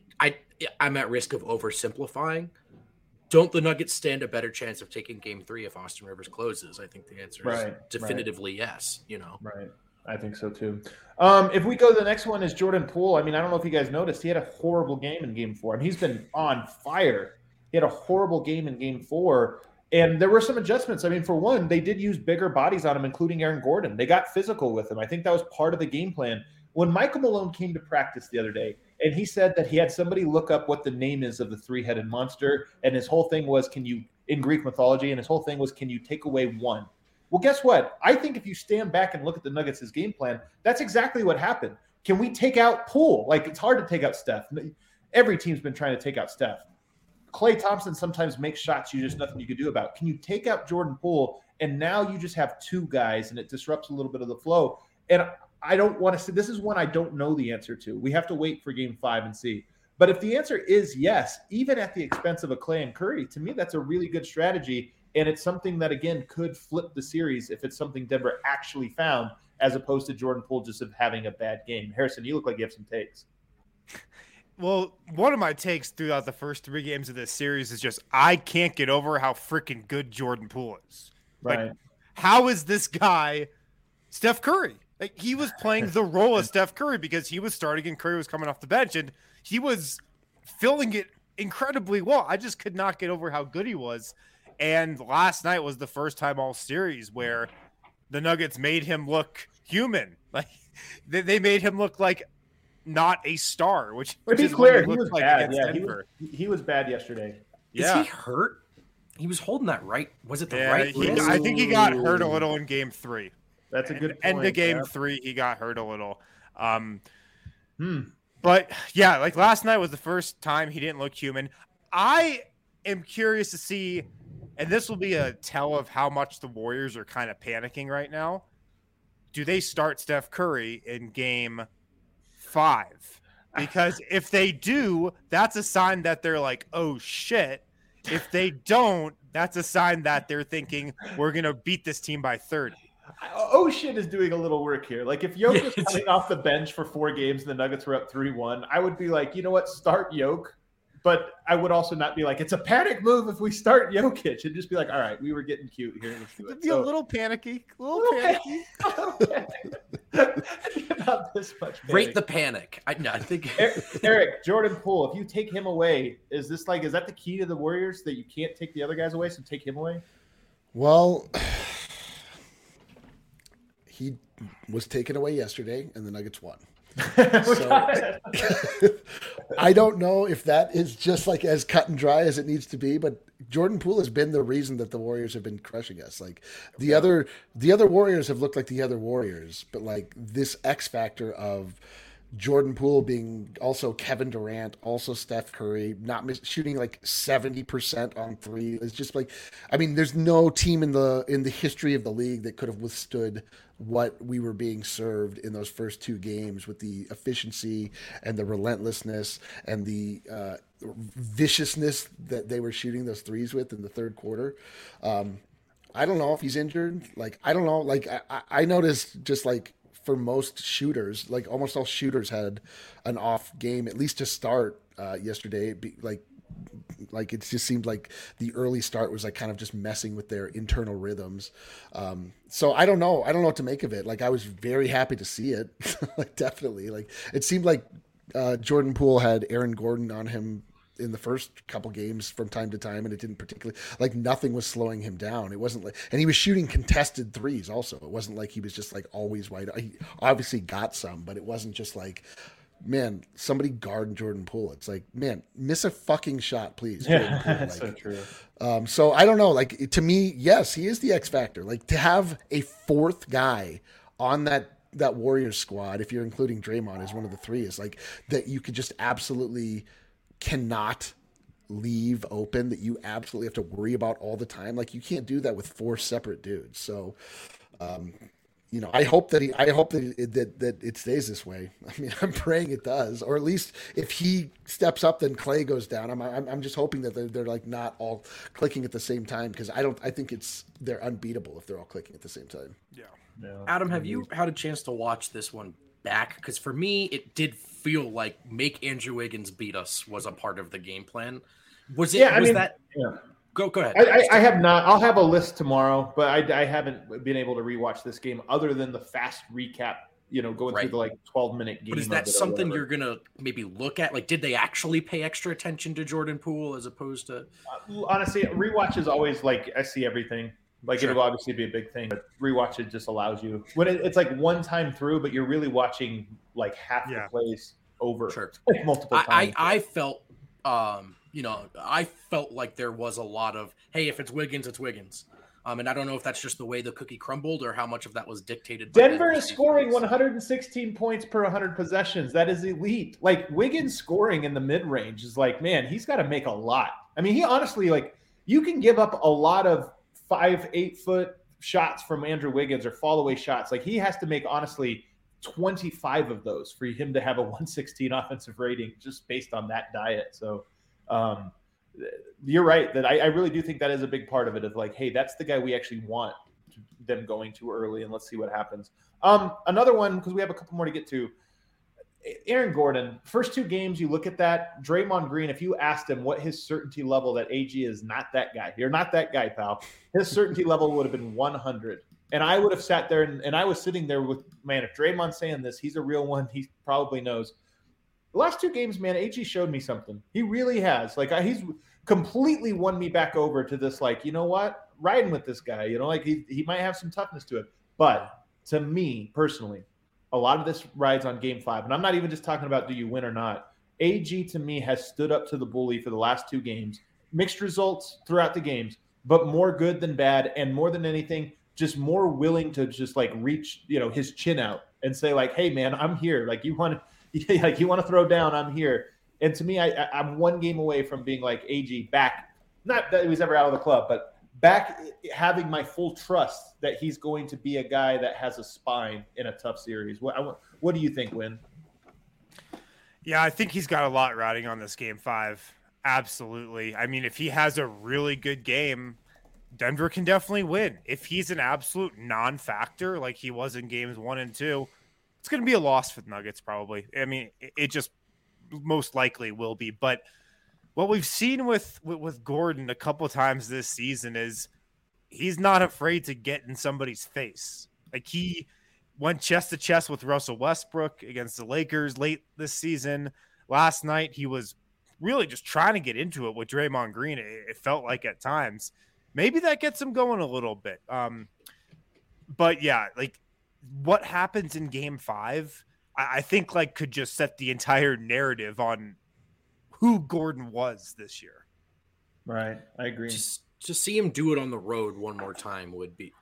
I'm at risk of oversimplifying. Don't the Nuggets stand a better chance of taking game 3 if Austin Rivers closes? I think the answer is definitively yes. Right. I think so too. If we go to the next one is Jordan Poole. I mean, I don't know if you guys noticed, he had a horrible game in game 4. I mean, he's been on fire. He had a horrible game in game 4. And there were some adjustments. I mean, for one, they did use bigger bodies on him, including Aaron Gordon. They got physical with him. I think that was part of the game plan. When Michael Malone came to practice the other day, and he said that he had somebody look up what the name is of the 3-headed monster, and his whole thing was, in Greek mythology, and his whole thing was, can you take away one? Well, guess what? I think if you stand back and look at the Nuggets' game plan, that's exactly what happened. Can we take out Poole? Like, it's hard to take out Steph. Every team's been trying to take out Steph. Klay Thompson sometimes makes shots there's nothing you can do about. Can you take out Jordan Poole? And now you just have 2 guys, and it disrupts a little bit of the flow. And I don't want to say, this is one I don't know the answer to. We have to wait for game 5 and see. But if the answer is yes, even at the expense of a Klay and Curry, to me, that's a really good strategy. And it's something that, again, could flip the series if it's something Denver actually found, as opposed to Jordan Poole just having a bad game. Harrison, you look like you have some takes. Well, one of my takes throughout the first 3 games of this series is just I can't get over how freaking good Jordan Poole is. Right. Like, how is this guy Steph Curry? Like, he was playing the role of Steph Curry because he was starting and Curry was coming off the bench, and he was filling it incredibly well. I just could not get over how good he was. And last night was the first time all series where the Nuggets made him look human. Like, they made him look like not a star, which to be is clear, he was like bad. against Denver. He was bad yesterday. Is he hurt? He was holding that right. Was it the right? I think he got hurt a little in game 3. That's a good point. End of game 3, he got hurt a little. But yeah, like last night was the first time he didn't look human. I am curious to see, and this will be a tell of how much the Warriors are kind of panicking right now. Do they start Steph Curry in game 5? Because if they do, that's a sign that they're like, oh shit. If they don't, that's a sign that they're thinking we're going to beat this team by 30. Oh shit is doing a little work here. Like if Yoke was coming off the bench for 4 games and the Nuggets were up 3-1, I would be like, you know what? Start Yoke but I would also not be like, it's a panic move if we start Jokic. It'd just be like, all right, we were getting cute here. Let's do it. It'd be a little panicky. A little panicky. About this much panic. Rate the panic. I think Eric, Jordan Poole, if you take him away, is that the key to the Warriors, that you can't take the other guys away, so take him away? Well, he was taken away yesterday, and the Nuggets won. So, I don't know if that is just like as cut and dry as it needs to be, but Jordan Poole has been the reason that the Warriors have been crushing us. Like the other Warriors have looked like the other Warriors, but like this X factor of Jordan Poole being also Kevin Durant, also Steph Curry, shooting like 70% on three. It's just like, I mean, there's no team in the history of the league that could have withstood what we were being served in those first two games with the efficiency and the relentlessness and the viciousness that they were shooting those threes with in the third quarter. I don't know if he's injured. Like, I don't know. Like, I noticed just like, for most shooters, like almost all shooters had an off game, at least to start yesterday. Like it just seemed like the early start was like kind of just messing with their internal rhythms. So I don't know what to make of it. Like I was very happy to see it. Like definitely, like it seemed like Jordan Poole had Aaron Gordon on him in the first couple games from time to time, and it didn't particularly, like nothing was slowing him down. It wasn't like, and he was shooting contested threes also. It wasn't like he was just like always wide. He obviously got some, but it wasn't just like, man, somebody guard Jordan Poole. It's like, man, miss a fucking shot, please. Yeah, Poole. that's like, so true. So I don't know. Like to me, yes, he is the X factor. Like to have a fourth guy on that Warriors squad, if you're including Draymond as one of the three, is like that you could just absolutely cannot leave open, that you absolutely have to worry about all the time. Like you can't do that with four separate dudes. So, you know, I hope that it stays this way. I mean, I'm praying it does, or at least if he steps up, then Clay goes down. I'm just hoping that they're like not all clicking at the same time, because I think they're unbeatable if they're all clicking at the same time. Yeah. Adam, have you had a chance to watch this one back? Because for me, it did feel like make Andrew Wiggins beat us was a part of the game plan. Was it? Yeah, Go ahead. I have not. I'll have a list tomorrow, but I haven't been able to rewatch this game other than the fast recap. You know, going through the like 12-minute game. But is that something you're gonna maybe look at? Like, did they actually pay extra attention to Jordan Poole as opposed to? Honestly, rewatch is always like I see everything. Like it'll obviously be a big thing, but rewatch it just allows you when it's like one time through, but you're really watching like half the plays over like multiple times. I felt, I felt like there was a lot of, hey, if it's Wiggins, it's Wiggins. And I don't know if that's just the way the cookie crumbled or how much of that was dictated. Denver is scoring 116 points per 100 possessions. That is elite. Like Wiggins scoring in the mid range is like, man, he's got to make a lot. I mean, he honestly, like, you can give up a lot of 5-8 foot shots from Andrew Wiggins or fall away shots. Like he has to make honestly 25 of those for him to have a 116 offensive rating just based on that diet. So you're right that I really do think that is a big part of it, of like, hey, that's the guy we actually want them going too early, and let's see what happens. Another one, because we have a couple more to get to. Aaron Gordon, first two games, you look at that. Draymond Green, if you asked him what his certainty level that AG is not that guy. You're not that guy, pal. His certainty level would have been 100. And I would have sat there and I was sitting there with, man, if Draymond's saying this, he's a real one. He probably knows. The last two games, man, AG showed me something. He really has. Like he's completely won me back over to this, like, you know what? Riding with this guy, you know, like he might have some toughness to it. But to me personally, a lot of this rides on game 5. And I'm not even just talking about do you win or not. AG to me has stood up to the bully for the last two games. Mixed results throughout the games, but more good than bad. And more than anything, just more willing to just like reach, you know, his chin out and say like, hey man, I'm here. Like you want to throw down, I'm here. And to me, I'm one game away from being like AG back. Not that he was ever out of the club, but back having my full trust that he's going to be a guy that has a spine in a tough series. What do you think, Win? Yeah, I think he's got a lot riding on this game 5. Absolutely. I mean, if he has a really good game, Denver can definitely win. If he's an absolute non-factor like he was in games 1 and 2, it's going to be a loss for the Nuggets probably. I mean, it just most likely will be. But what we've seen with Gordon a couple times this season is he's not afraid to get in somebody's face. Like he went chest to chest with Russell Westbrook against the Lakers late this season. Last night, he was really just trying to get into it with Draymond Green. It felt like at times. Maybe that gets him going a little bit. But yeah, like what happens in game 5, I think like could just set the entire narrative on who Gordon was this year. Right. I agree. Just to see him do it on the road one time would be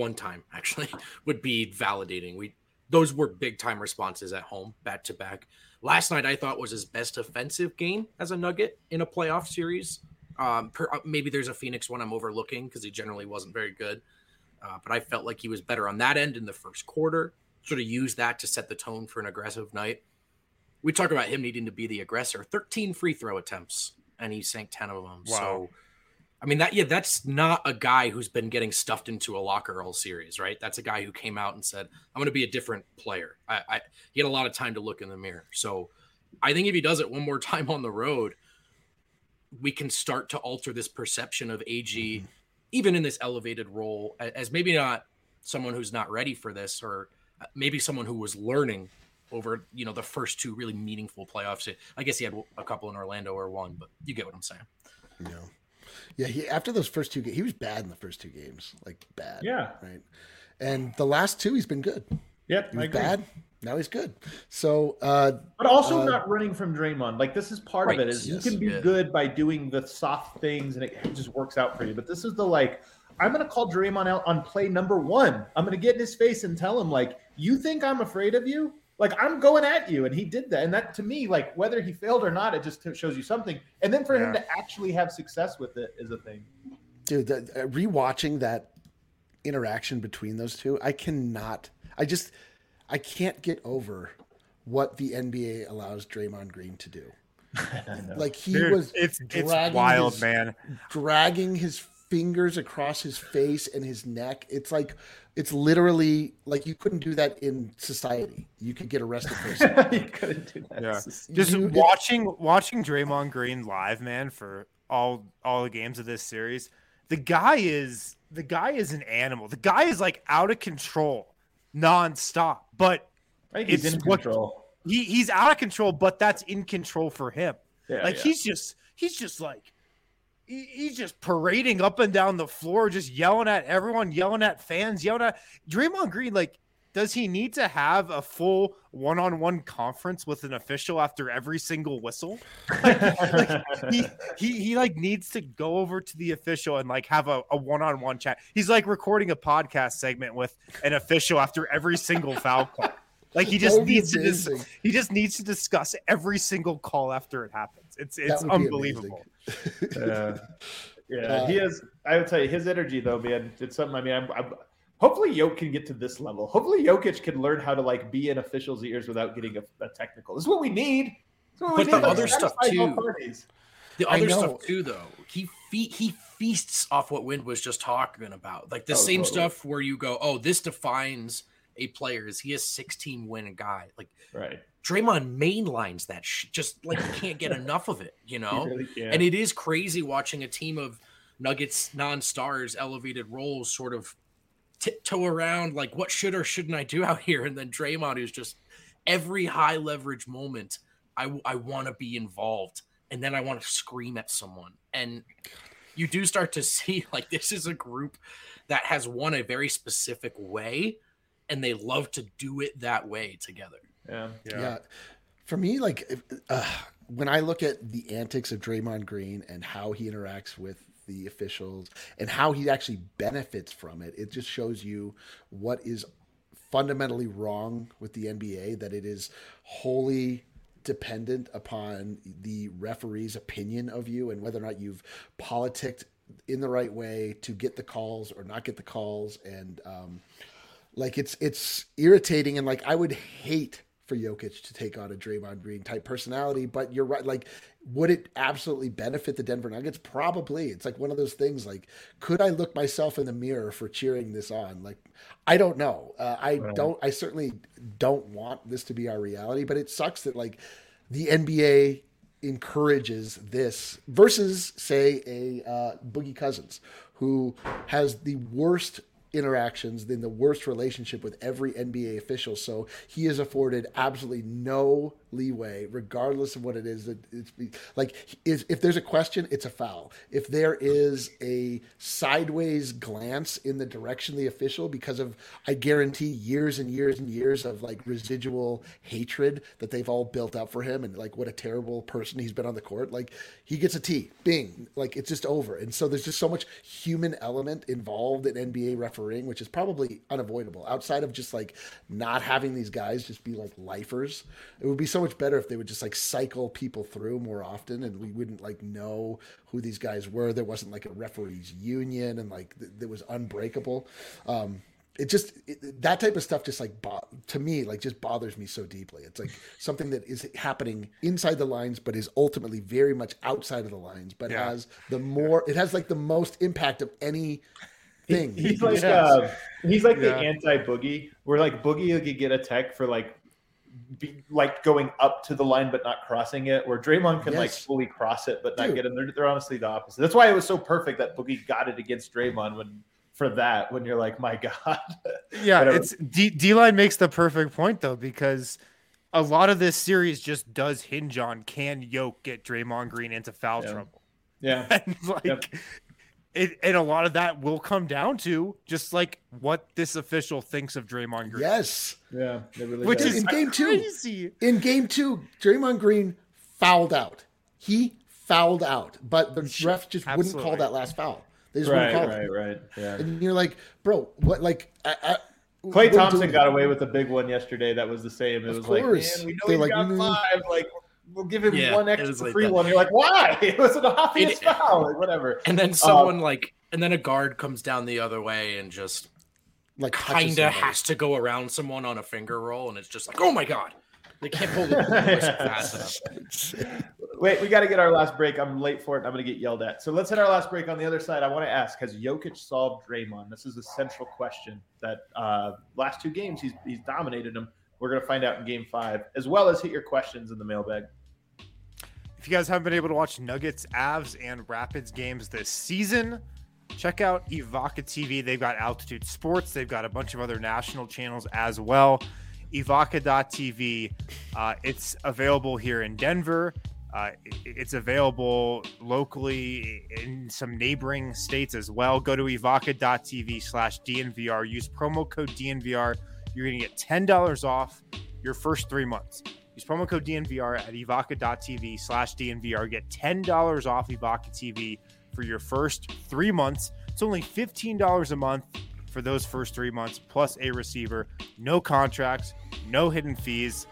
validating. Those were big time responses at home, back to back. Last night I thought was his best offensive game as a Nugget in a playoff series. Maybe there's a Phoenix one I'm overlooking because he generally wasn't very good. But I felt like he was better on that end in the first quarter. Sort of used that to set the tone for an aggressive night. We talk about him needing to be the aggressor. 13 free throw attempts, and he sank 10 of them. Wow. So, I mean, that's not a guy who's been getting stuffed into a locker all series, right? That's a guy who came out and said, I'm going to be a different player. He had a lot of time to look in the mirror. So I think if he does it one more time on the road, we can start to alter this perception of AG, even in this elevated role, as maybe not someone who's not ready for this, or maybe someone who was learning over, the first 2 really meaningful playoffs. I guess he had a couple in Orlando or one, but you get what I'm saying. Yeah. After those first 2 games, he was bad in the first 2 games, like bad. Yeah. Right. And the last 2, he's been good. Yep. He was bad. Now he's good. So, but also not running from Draymond. Like this is part of it. Is yes, you can be good by doing the soft things and it just works out for you. But this is the I'm going to call Draymond out on play number 1. I'm going to get in his face and tell him you think I'm afraid of you? I'm going at you. And he did that. And that to me, whether he failed or not, it just shows you something. And then for him to actually have success with it is a thing. Dude, rewatching that interaction between those two, I can't get over what the NBA allows Draymond Green to do. It's wild, man. Dragging his fingers across his face and his neck. It's literally you couldn't do that in society. You could get arrested for it. You couldn't do that. Yeah. Just watching Draymond Green live, man, for all the games of this series. The guy is an animal. The guy is out of control nonstop. But I think he's in control. He's out of control, but that's in control for him. Yeah, he's just parading up and down the floor, just yelling at everyone, yelling at fans, yelling at Draymond Green. Does he need to have a full one-on-one conference with an official after every single whistle? He needs to go over to the official and have a one-on-one chat. He's recording a podcast segment with an official after every single foul call. He just needs to discuss every single call after it happens. It's unbelievable. He is. I would tell you his energy though, man. It's something. I mean, I'm hopefully Jokic can get to this level. Hopefully Jokic can learn how to be in officials' ears without getting a technical. This is what we need. But the other stuff too. The other stuff too, though, he feasts off what Wind was just talking about. Same stuff where you go, oh, this defines a player. Is he a 16-win guy? Right. Draymond mainlines that just you can't get enough of it, Really can't. And it is crazy watching a team of Nuggets non-stars, elevated roles, sort of tiptoe around what should or shouldn't I do out here, and then Draymond is just every high leverage moment I want to be involved, and then I want to scream at someone, and you do start to see this is a group that has won a very specific way, and they love to do it that way together. Yeah. For me, when I look at the antics of Draymond Green and how he interacts with the officials and how he actually benefits from it, it just shows you what is fundamentally wrong with the NBA, that it is wholly dependent upon the referee's opinion of you and whether or not you've politicked in the right way to get the calls or not get the calls. And it's irritating. And I would hate for Jokic to take on a Draymond Green type personality, but you're right. Would it absolutely benefit the Denver Nuggets? Probably. It's one of those things. Could I look myself in the mirror for cheering this on? I don't know. I certainly don't want this to be our reality, but it sucks that the NBA encourages this versus, say, a Boogie Cousins, who has the worst interactions, in the worst relationship with every NBA official. So he is afforded absolutely no leeway, regardless of what it is. It's like, if there's a question, it's a foul. If there is a sideways glance in the direction of the official because of, I guarantee, years and years and years of like residual hatred that they've all built up for him, and like what a terrible person he's been on the court, like he gets a T, bing, like it's just over. And so there's just so much human element involved in NBA refereeing, which is probably unavoidable outside of just like not having these guys just be like lifers. It would be so much better if they would just like cycle people through more often, and we wouldn't like know who these guys were. There wasn't like a referees union, and like that was unbreakable. That type of stuff just like to me like just bothers me so deeply. It's like something that is happening inside the lines, but is ultimately very much outside of the lines, but it has like the most impact of any thing. He's like the anti-Boogie, where like Boogie could get a tech for like going up to the line but not crossing it, where Draymond can like fully cross it but not get him. They're honestly the opposite. That's why it was so perfect that Boogie got it against Draymond when you're like, my God. Yeah, it's D-Line makes the perfect point though, because a lot of this series just does hinge on, can Yoke get Draymond Green into foul trouble? Yeah. And like and a lot of that will come down to just like what this official thinks of Draymond Green. Yes. Yeah. Which is in game two. In game two, Draymond Green fouled out. He fouled out, but the ref just wouldn't call that last foul. They just wouldn't call it. Right. Yeah. And you're like, bro, what? Like, Klay Thompson got away with a big one yesterday. That was the same. It was like, man, we know he got 5. Like, we'll give him one extra free one. You're like, why? It was an obvious foul. Like, whatever. And then someone and then a guard comes down the other way and just like kind of has to go around someone on a finger roll, and it's just like, oh my God. They can't pull the fast enough. Wait, we got to get our last break. I'm late for it. I'm going to get yelled at. So let's hit our last break. On the other side, I want to ask, has Jokic solved Draymond? This is a central question that last 2 games, he's dominated them. We're going to find out in game 5, as well as hit your questions in the mailbag. If you guys haven't been able to watch Nuggets, Avs, and Rapids games this season, check out Evoca TV. They've got Altitude Sports. They've got a bunch of other national channels as well. Evoca.tv. It's available here in Denver. It's available locally in some neighboring states as well. Go to evoca.tv/DNVR. Use promo code DNVR. You're going to get $10 off your first 3 months. Use promo code DNVR at evoca.tv/DNVR. Get $10 off Evoca TV for your first 3 months. It's only $15 a month for those first 3 months, plus a receiver. No contracts, no hidden fees.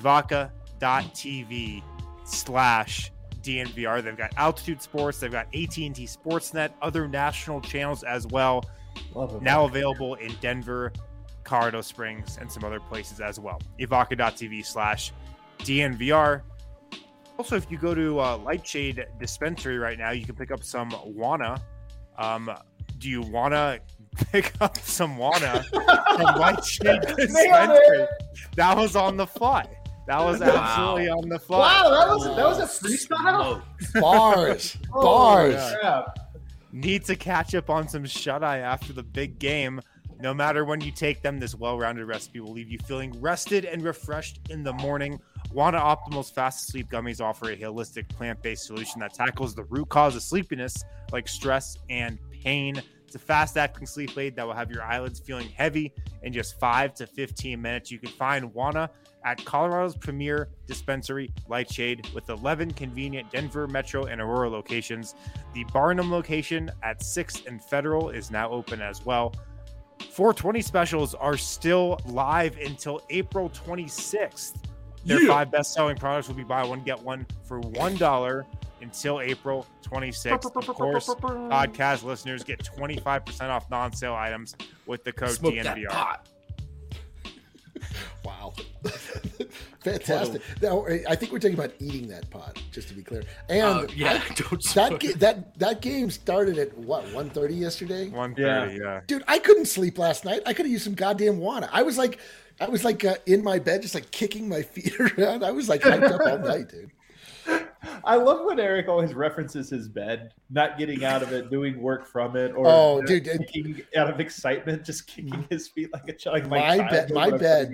Evoca.tv/DNVR. They've got Altitude Sports. They've got AT&T Sportsnet, other national channels as well. Now available in Denver, Colorado Springs, and some other places as well. Evoca.tv/DNVR. Also, if you go to Lightshade Dispensary right now, you can pick up some Wana. Do you want to pick up some Wana from Lightshade Dispensary? That was on the fly. That was absolutely on the fly. Wow, that was a freestyle. Bars. Yeah. Need to catch up on some shut-eye after the big game. No matter when you take them, this well-rounded recipe will leave you feeling rested and refreshed in the morning. Wana Optimal's Fast Sleep Gummies offer a holistic plant-based solution that tackles the root cause of sleepiness, like stress and pain. It's a fast-acting sleep aid that will have your eyelids feeling heavy in just 5 to 15 minutes. You can find Wana at Colorado's premier dispensary, Lightshade, with 11 convenient Denver, Metro, and Aurora locations. The Barnum location at 6th and Federal is now open as well. 420 specials are still live until April 26th. Their 5 best-selling products will be buy one, get one for $1 until April 26th. Of course, podcast listeners get 25% off non-sale items with the code Smoke DNVR. That pot. Wow. Fantastic. Now, I think we're talking about eating that pot, just to be clear. And that game started at what, 1:30 yesterday? 1:30, yeah. Dude, I couldn't sleep last night. I could have used some goddamn Wana. I was like in my bed, just like kicking my feet around. I was like hyped up all night, dude. I love when Eric always references his bed, not getting out of it, doing work from it, or kicking out of excitement, just kicking his feet like a child. My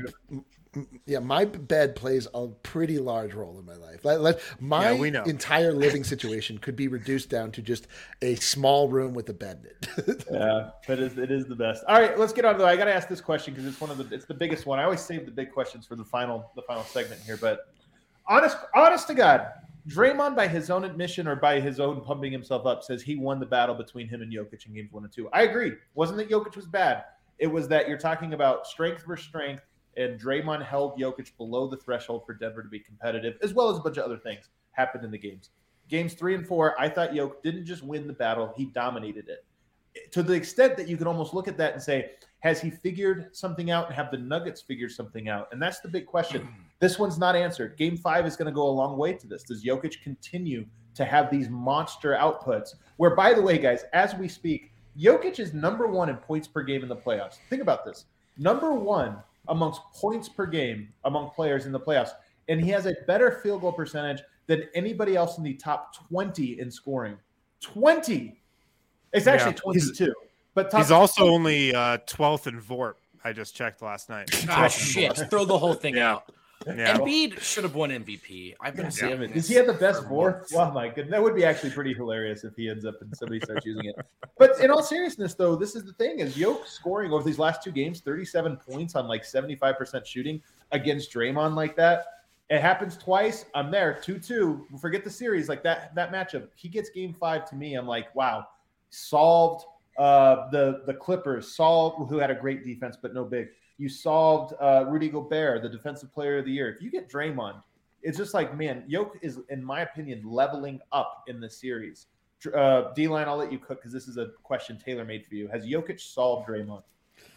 bed plays a pretty large role in my life. My entire living situation could be reduced down to just a small room with a bed in it. Yeah, but it is the best. All right, let's get on to it. I got to ask this question because it's the biggest one. I always save the big questions for the final segment here, but honest to God, Draymond, by his own admission or by his own pumping himself up, says he won the battle between him and Jokic in games 1 and 2. I agree. It wasn't that Jokic was bad. It was that you're talking about strength versus strength, and Draymond held Jokic below the threshold for Denver to be competitive, as well as a bunch of other things happened in the games. Games 3 and 4, I thought Jokic didn't just win the battle, he dominated it. To the extent that you can almost look at that and say, has he figured something out, and have the Nuggets figured something out? And that's the big question. This one's not answered. Game 5 is going to go a long way to this. Does Jokic continue to have these monster outputs? Where, by the way, guys, as we speak, Jokic is number 1 in points per game in the playoffs. Think about this. Number 1 amongst points per game among players in the playoffs. And he has a better field goal percentage than anybody else in the top 20 in scoring. 20! It's actually 22. But he's also only 12th in VORP. I just checked last night. Oh, shit. Throw the whole thing out. Yeah. Embiid should have won MVP. I've been saying it. Does he have the best VORP? Oh, my goodness. That would be actually pretty hilarious if he ends up and somebody starts using it. But in all seriousness, though, this is the thing. Is Jokic scoring over these last 2 games 37 points on like 75% shooting against Draymond like that? It happens twice. I'm there. 2-2. Forget the series. Like that matchup. He gets game 5 to me. I'm like, wow. Solved. The Clippers solved, who had a great defense but no big. You solved Rudy Gobert, the defensive player of the year. If you get Draymond, it's just like, man, Jokic is, in my opinion, leveling up in the series. D-Line, I'll let you cook because this is a question tailor-made for you. Has Jokic solved Draymond?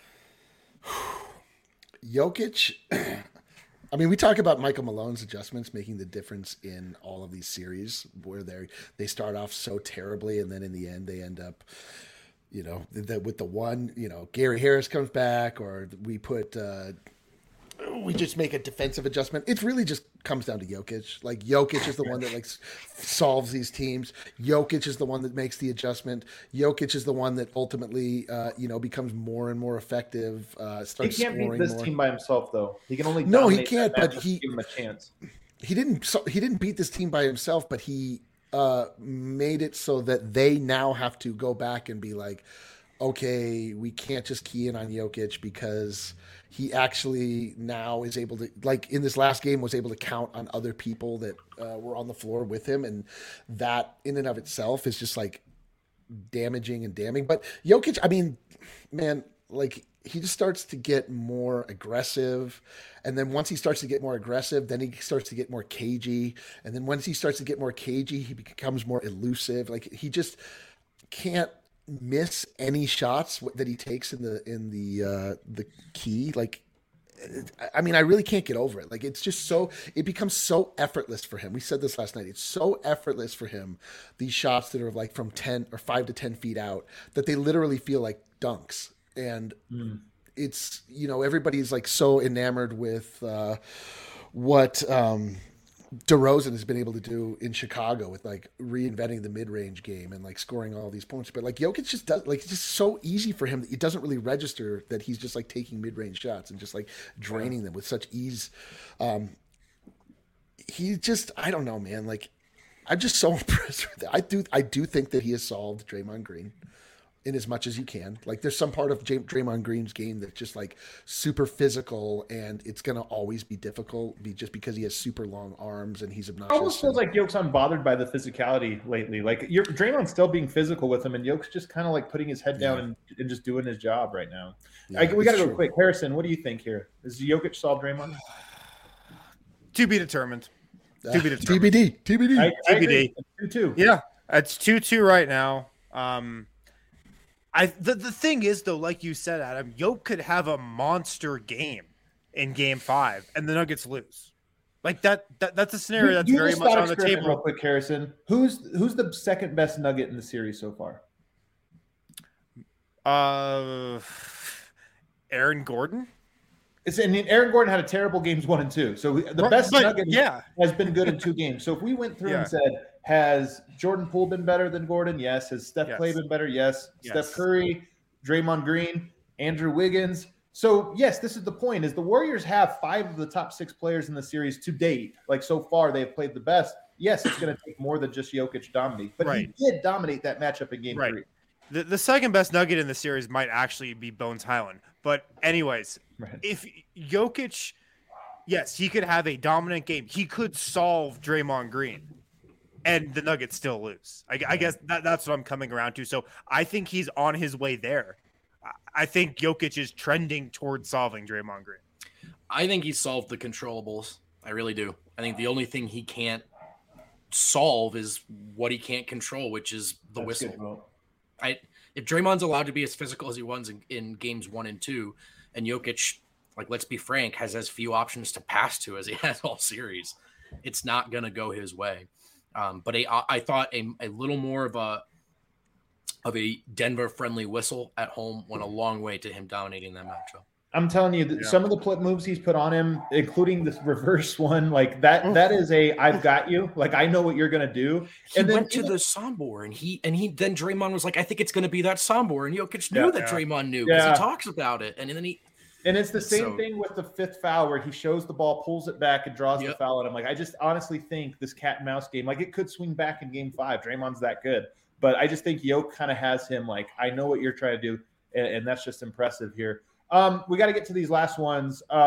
Jokic, I mean, we talk about Michael Malone's adjustments making the difference in all of these series where they start off so terribly and then in the end they end up, with the one, Gary Harris comes back, or we just make a defensive adjustment. It really just comes down to Jokic. Like, Jokic is the one that solves these teams. Jokic is the one that makes the adjustment. Jokic is the one that ultimately, becomes more and more effective. Starts he can't scoring beat this more. team by himself, though. He can only he can't. But give him a chance. He didn't beat this team by himself, but he made it so that they now have to go back and be like, okay, we can't just key in on Jokic because he actually now is able to, like in this last game, was able to count on other people that were on the floor with him. And that in and of itself is just like damaging and damning. But Jokic, I mean, man, like he just starts to get more aggressive. And then once he starts to get more aggressive, then he starts to get more cagey. And then once he starts to get more cagey, he becomes more elusive. Like he just can't miss any shots that he takes in the key. Like, I mean, I really can't get over it. Like, it's just it becomes so effortless for him. We said this last night. It's so effortless for him. These shots that are like from 10 or 5 to 10 feet out, that they literally feel like dunks. And it's, everybody's like so enamored with what DeRozan has been able to do in Chicago with like reinventing the mid-range game and like scoring all these points. But like Jokic just does, like, it's just so easy for him that it doesn't really register that he's just like taking mid-range shots and just like draining them with such ease. He just, I don't know, man. Like, I'm just so impressed with that. I do think that he has solved Draymond Green in as much as you can. Like, there's some part of Draymond Green's game that's just like super physical, and it's going to always be difficult just because he has super long arms and he's obnoxious. It almost feels like Jokic's unbothered by the physicality lately. Like, Draymond's still being physical with him, and Jokic's just kind of like putting his head down and just doing his job right now. Yeah, we got to go quick. Harrison, what do you think here? Is Jokic solve Draymond? To be determined. TBD. TBD. 2-2. Yeah, it's 2-2 right now. The thing is, though, like you said, Adam, Jokic could have a monster game in Game 5, and the Nuggets lose. Like that's a scenario that's very much on the table. Real quick, Harrison, who's the second best Nugget in the series so far? Aaron Gordon. And Aaron Gordon had a terrible games 1 and 2. So the best Nugget has been good in 2 games. So if we went through and said, has Jordan Poole been better than Gordon? Yes. Has Steph Clay been better? Yes. Steph Curry, Draymond Green, Andrew Wiggins. So yes, this is the point: is the Warriors have 5 of the top 6 players in the series to date. Like so far, they have played the best. Yes, it's going to take more than just Jokic dominate, but he did dominate that matchup in Game 3. The second best Nugget in the series might actually be Bones Highland. But anyways, if Jokic, yes, he could have a dominant game. He could solve Draymond Green, and the Nuggets still lose. I guess that's what I'm coming around to. So I think he's on his way there. I think Jokic is trending towards solving Draymond Green. I think he solved the controllables. I really do. I think the only thing he can't solve is what he can't control, which is the whistle. If Draymond's allowed to be as physical as he was in games 1 and 2, and Jokic, like, let's be frank, has as few options to pass to as he has all series, it's not going to go his way. But I thought a little more of a Denver friendly whistle at home went a long way to him dominating that matchup. I'm telling you, some of the moves he's put on him, including this reverse one, like that is I've got you. Like, I know what you're going to do. He went to the Sombor, and then Draymond was like, I think it's going to be that Sombor. And Jokic knew that Draymond knew because he talks about it. And then and it's the same thing with the 5th foul where he shows the ball, pulls it back, and draws the foul. And I'm like, I just honestly think this cat and mouse game, like, it could swing back in Game 5. Draymond's that good. But I just think Jokic kind of has him like, I know what you're trying to do. And that's just impressive here. We got to get to these last ones. We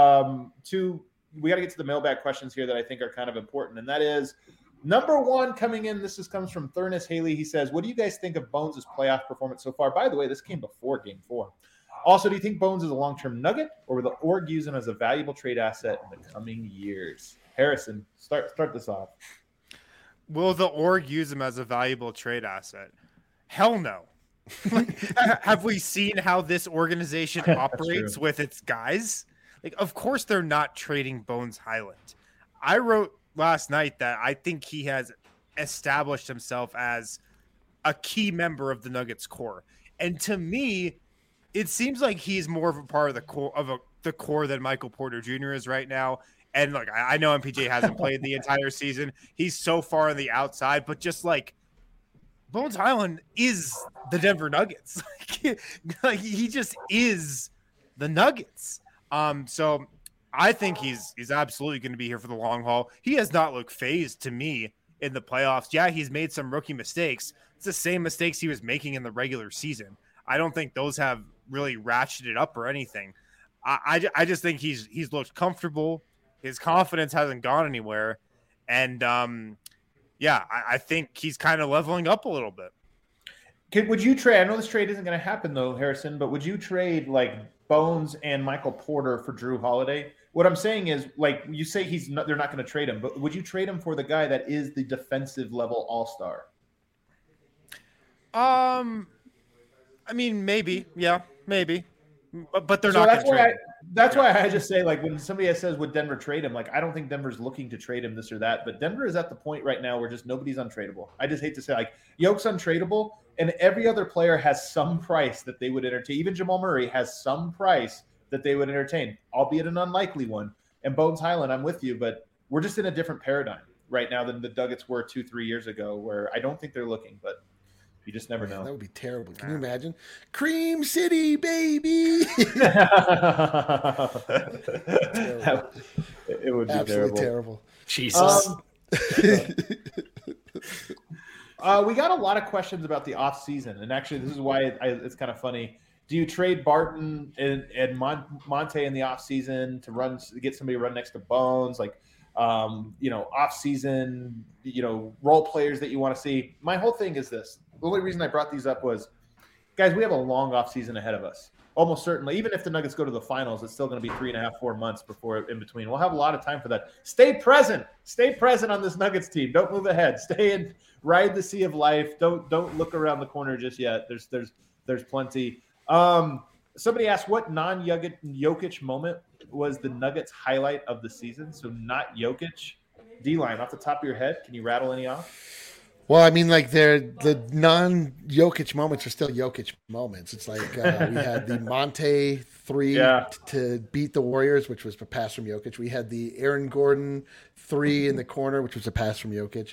got to get to the mailbag questions here that I think are kind of important. And that is number 1 coming in. This comes from Thurnis Haley. He says, what do you guys think of Bones' playoff performance so far? By the way, this came before Game 4. Also, do you think Bones is a long-term Nugget, or will the org use him as a valuable trade asset in the coming years? Harrison, start this off. Will the org use him as a valuable trade asset? Hell no. Have we seen how this organization operates with its guys? Like, of course they're not trading Bones Highland. I wrote last night that I think he has established himself as a key member of the Nuggets core. And to me, it seems like he's more of a part of the core than Michael Porter Jr. is right now. And look, I know MPJ hasn't played the entire season. He's so far on the outside, but just like Bones Highland is the Denver Nuggets. Like he just is the Nuggets. So I think he's absolutely going to be here for the long haul. He has not looked phased to me in the playoffs. Yeah, he's made some rookie mistakes. It's the same mistakes he was making in the regular season. I don't think those have really ratcheted up or anything. I just think he's looked comfortable. His confidence hasn't gone anywhere. And I think he's kind of leveling up a little bit. Would you trade? I know this trade isn't going to happen though, Harrison, but would you trade like Bones and Michael Porter for Drew Holiday? What I'm saying is, like, you say they're not going to trade him, but would you trade him for the guy that is the defensive level all-star? I mean, maybe. Yeah, maybe. But they're not going to trade him. That's why I just say, like, when somebody says, would Denver trade him? Like, I don't think Denver's looking to trade him this or that, but Denver is at the point right now where just nobody's untradeable. I just hate to say, like, Yoke's untradeable, and every other player has some price that they would entertain. Even Jamal Murray has some price that they would entertain, albeit an unlikely one. And Bones Highland, I'm with you, but we're just in a different paradigm right now than the Nuggets were 2-3 years ago, where I don't think they're looking, but you just never know. That would be terrible. Can you imagine? Cream City, baby. It would be absolutely terrible. Jesus. We got a lot of questions about the offseason, and actually this is why it's kind of funny. Do you trade Barton and Monte in the offseason to get somebody to run next to Bones? Like, offseason, role players that you want to see. My whole thing is this. The only reason I brought these up was, guys, we have a long offseason ahead of us. Almost certainly, even if the Nuggets go to the finals, it's still going to be 3.5, 4 months before in between. We'll have a lot of time for that. Stay present on this Nuggets team. Don't move ahead. Stay and ride the sea of life. Don't look around the corner just yet. There's plenty. Somebody asked what non-Jokic moment was the Nuggets highlight of the season. So not Jokic. D-line off the top of your head. Can you rattle any off? Well, I mean, like the non-Jokic moments are still Jokic moments. It's like we had the Monte 3 to beat the Warriors, which was a pass from Jokic. We had the Aaron Gordon 3 in the corner, which was a pass from Jokic.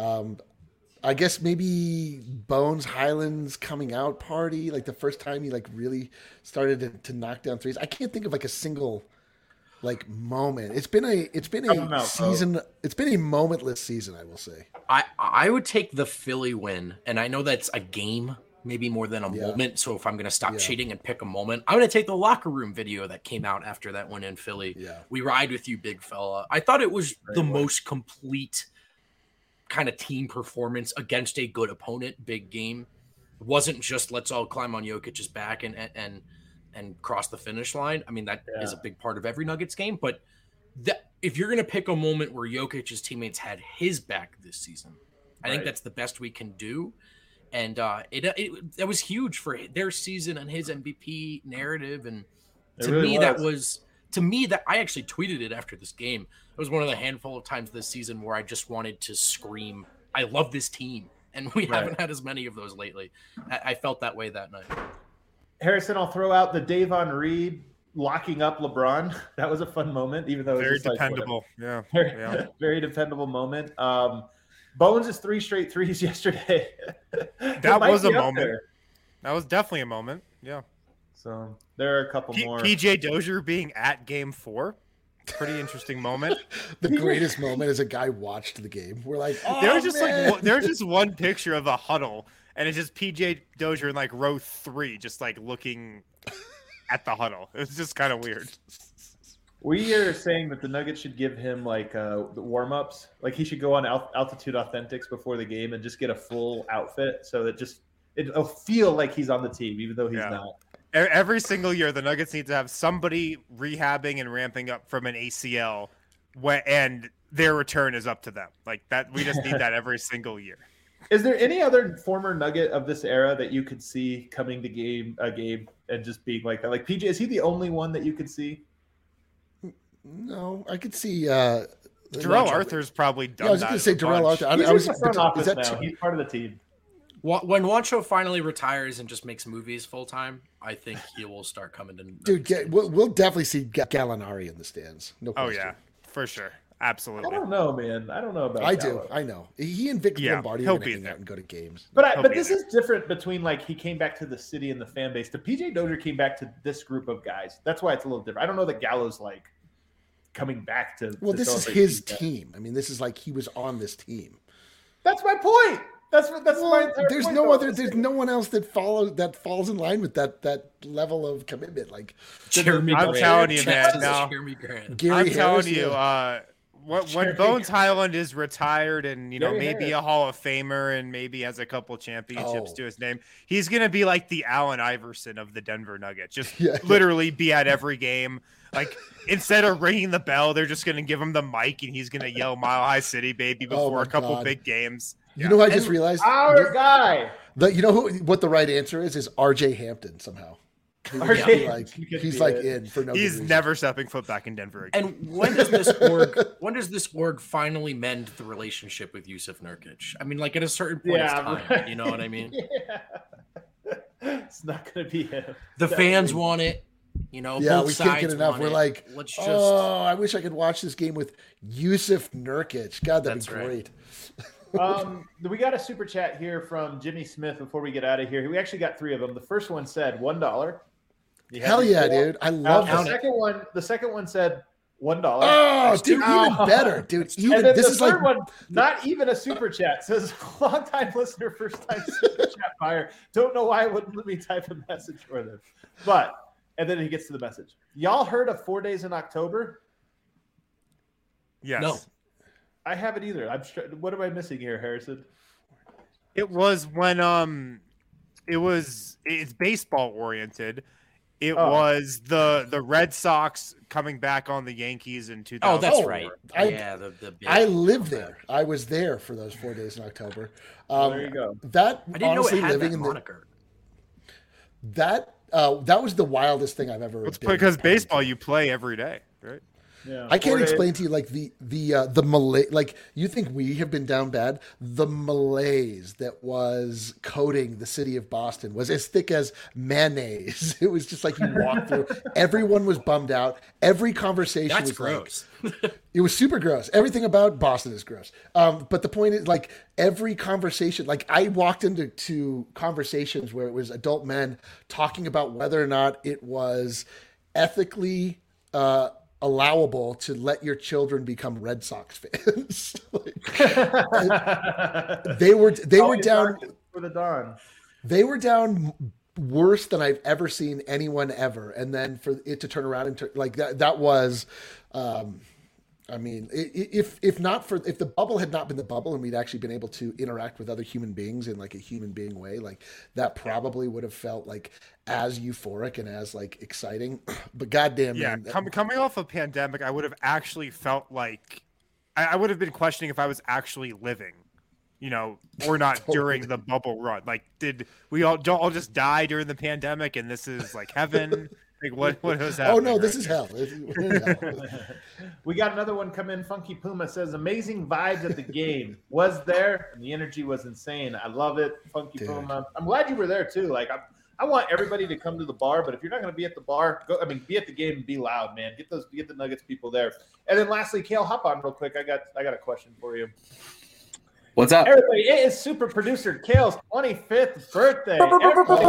I guess maybe Bones Highland's coming out party, like the first time he like really started to knock down threes. I can't think of like a single like moment. It's been a season. It's been a momentless season, I will say. I would take the Philly win, and I know that's a game, maybe more than a moment. So if I'm going to stop cheating and pick a moment, I'm going to take the locker room video that came out after that win in Philly. Yeah. We ride with you, big fella. I thought it was the most complete kind of team performance against a good opponent. Big game. It wasn't just let's all climb on Jokic's back and cross the finish line. I mean, that is a big part of every Nuggets game. But if you're going to pick a moment where Jokic's teammates had his back this season, I think that's the best we can do. And it was huge for their season and his MVP narrative. And to me, that I actually tweeted it after this game. It was one of the handful of times this season where I just wanted to scream, I love this team. And we haven't had as many of those lately. I felt that way that night. Harrison, I'll throw out the Davon Reed locking up LeBron. That was a fun moment, even though very it was dependable. Very dependable moment. Bones' 3 straight threes yesterday. That was a moment. There. That was definitely a moment. Yeah. So there are a couple more. PJ Dozier being at Game 4. Pretty interesting moment. The greatest moment is a guy watched the game. We're like, there was just one picture of a huddle. And it's just PJ Dozier in like row 3, just like looking at the huddle. It was just kind of weird. We are saying that the Nuggets should give him like the warm-ups. Like he should go on Altitude Authentics before the game and just get a full outfit so that it'll feel like he's on the team, even though he's not. Every single year, the Nuggets need to have somebody rehabbing and ramping up from an ACL, and their return is up to them. Like that, we just need that every single year. Is there any other former Nugget of this era that you could see coming to a game and just being like that? Like PJ, is he the only one that you could see? No, I could see Darrell Arthur's probably done. I was going to say Darrell Arthur. He's in the front office now. He's part of the team. When Juancho finally retires and just makes movies full time, I think he will start coming to. Dude, we'll definitely see Gallinari in the stands. No question. Oh yeah, for sure. Absolutely. I don't know, man. I don't know about. I do. I know. He and Vic Lombardi are going to hang out and go to games. But this is different between like he came back to the city and the fan base. The PJ Dozier came back to this group of guys. That's why it's a little different. I don't know that Gallo's like coming back to. Well, this is his team. I mean, this is like he was on this team. That's my point. That's my entire there's point, no other. There's no one else that falls in line with that level of commitment. Like I'm telling you, man. Now, Gary I'm telling you. When Bones Highland is retired and maybe a Hall of Famer and maybe has a couple championships to his name, he's gonna be like the Allen Iverson of the Denver Nuggets. Just literally be at every game. Like instead of ringing the bell, they're just gonna give him the mic and he's gonna yell "Mile High City, baby" before a couple big games. You know, I just realized our guy. You know what the right answer is RJ Hampton somehow. He's like in for no. He's never stepping foot back in Denver again. And when does this org finally mend the relationship with Yusuf Nurkic? I mean, like at a certain point of time, right. You know what I mean? It's not going to be him. The fans want it. Both we sides can't get enough. We're like, let's just. Oh, I wish I could watch this game with Yusuf Nurkic. God, that'd be great. We got a super chat here from Jimmy Smith before we get out of here. We actually got 3 of them. The first one said $1. Hell yeah, dude! I love the second one said $1. Oh, dude, even better, dude. And then the third one, not even a super chat, says long time listener, first time super chat buyer. Don't know why it wouldn't let me type a message for them, and then he gets to the message. Y'all heard of 4 Days in October? Yes. No. I haven't either. What am I missing here, Harrison? It was when it's baseball oriented. It was the Red Sox coming back on the Yankees in 2004. Oh, that's right. I lived there. I was there for those 4 days in October. There you go. That I didn't honestly know it had living that in moniker. That was the wildest thing I've ever. It's because baseball you play every day, right? Yeah, I can't 4 days. explain to you like the malaise. Like you think we have been down bad. The malaise that was coating the city of Boston was as thick as mayonnaise. It was just like you walked through. Everyone was bummed out. Every conversation That's was gross. it was super gross. Everything about Boston is gross. But the point is, like every conversation, like I walked into conversations where it was adult men talking about whether or not it was ethically allowable to let your children become Red Sox fans. they were Always down for the dawn. they were down worse than I've ever seen anyone ever. And then for it to turn around and like that was, I mean, if the bubble had not been the bubble and we'd actually been able to interact with other human beings in like a human being way, like that probably would have felt like as euphoric and as like exciting. But goddamn, Yeah, man, coming off a pandemic, I would have actually felt like I would have been questioning if I was actually living, or not Totally. during the bubble run. Like, did we all just die during the pandemic and this is like heaven? Like, what was happening? oh no, this right is now? hell. We're in hell. We got another one come in. Funky Puma says, amazing vibes at the game. Was there, and the energy was insane. I love it. Funky Dude. Puma. I'm glad you were there too. Like, I want everybody to come to the bar, but if you're not going to be at the bar, be at the game and be loud, man. Get the Nuggets people there. And then lastly, Kale, hop on real quick. I got a question for you. What's up? Everybody, it is super producer Kale's 25th birthday. Everybody,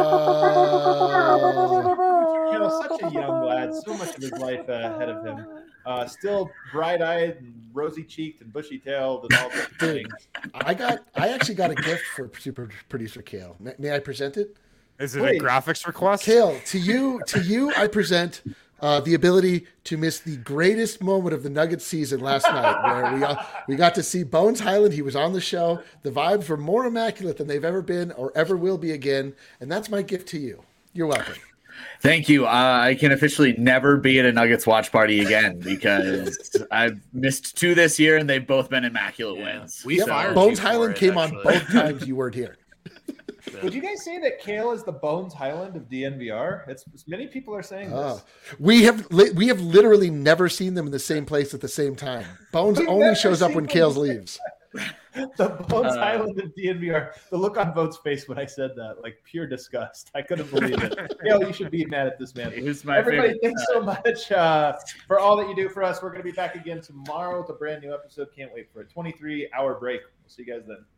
Kale, such a young lad, so much of his life ahead of him. Still bright-eyed and rosy-cheeked and bushy-tailed and all those things. I actually got a gift for super producer Kale. May I present it? Is it Wait. a graphics request? Kale, to you, I present the ability to miss the greatest moment of the Nuggets season last night, where we got to see Bones Highland. He was on the show. The vibes were more immaculate than they've ever been or ever will be again, and that's my gift to you. You're welcome. Thank you. I can officially never be at a Nuggets watch party again because I've missed 2 this year, and they've both been immaculate wins. We Yep, fired Bones you for Highland it, came actually. on both times you weren't here. Would you guys say that Kale is the Bones Highland of DNVR? It's many people are saying Oh. this. We have literally never seen them in the same place at the same time. Bones We've only never shows up seen when them Kales the same leaves. The Bones Highland of DNVR. The look on Vote's face when I said that, like pure disgust. I couldn't believe it. Kale, you should be mad at this man. It was my Everybody, favorite. thanks so much for all that you do for us. We're going to be back again tomorrow with a brand new episode. Can't wait for a 23-hour break. We'll see you guys then.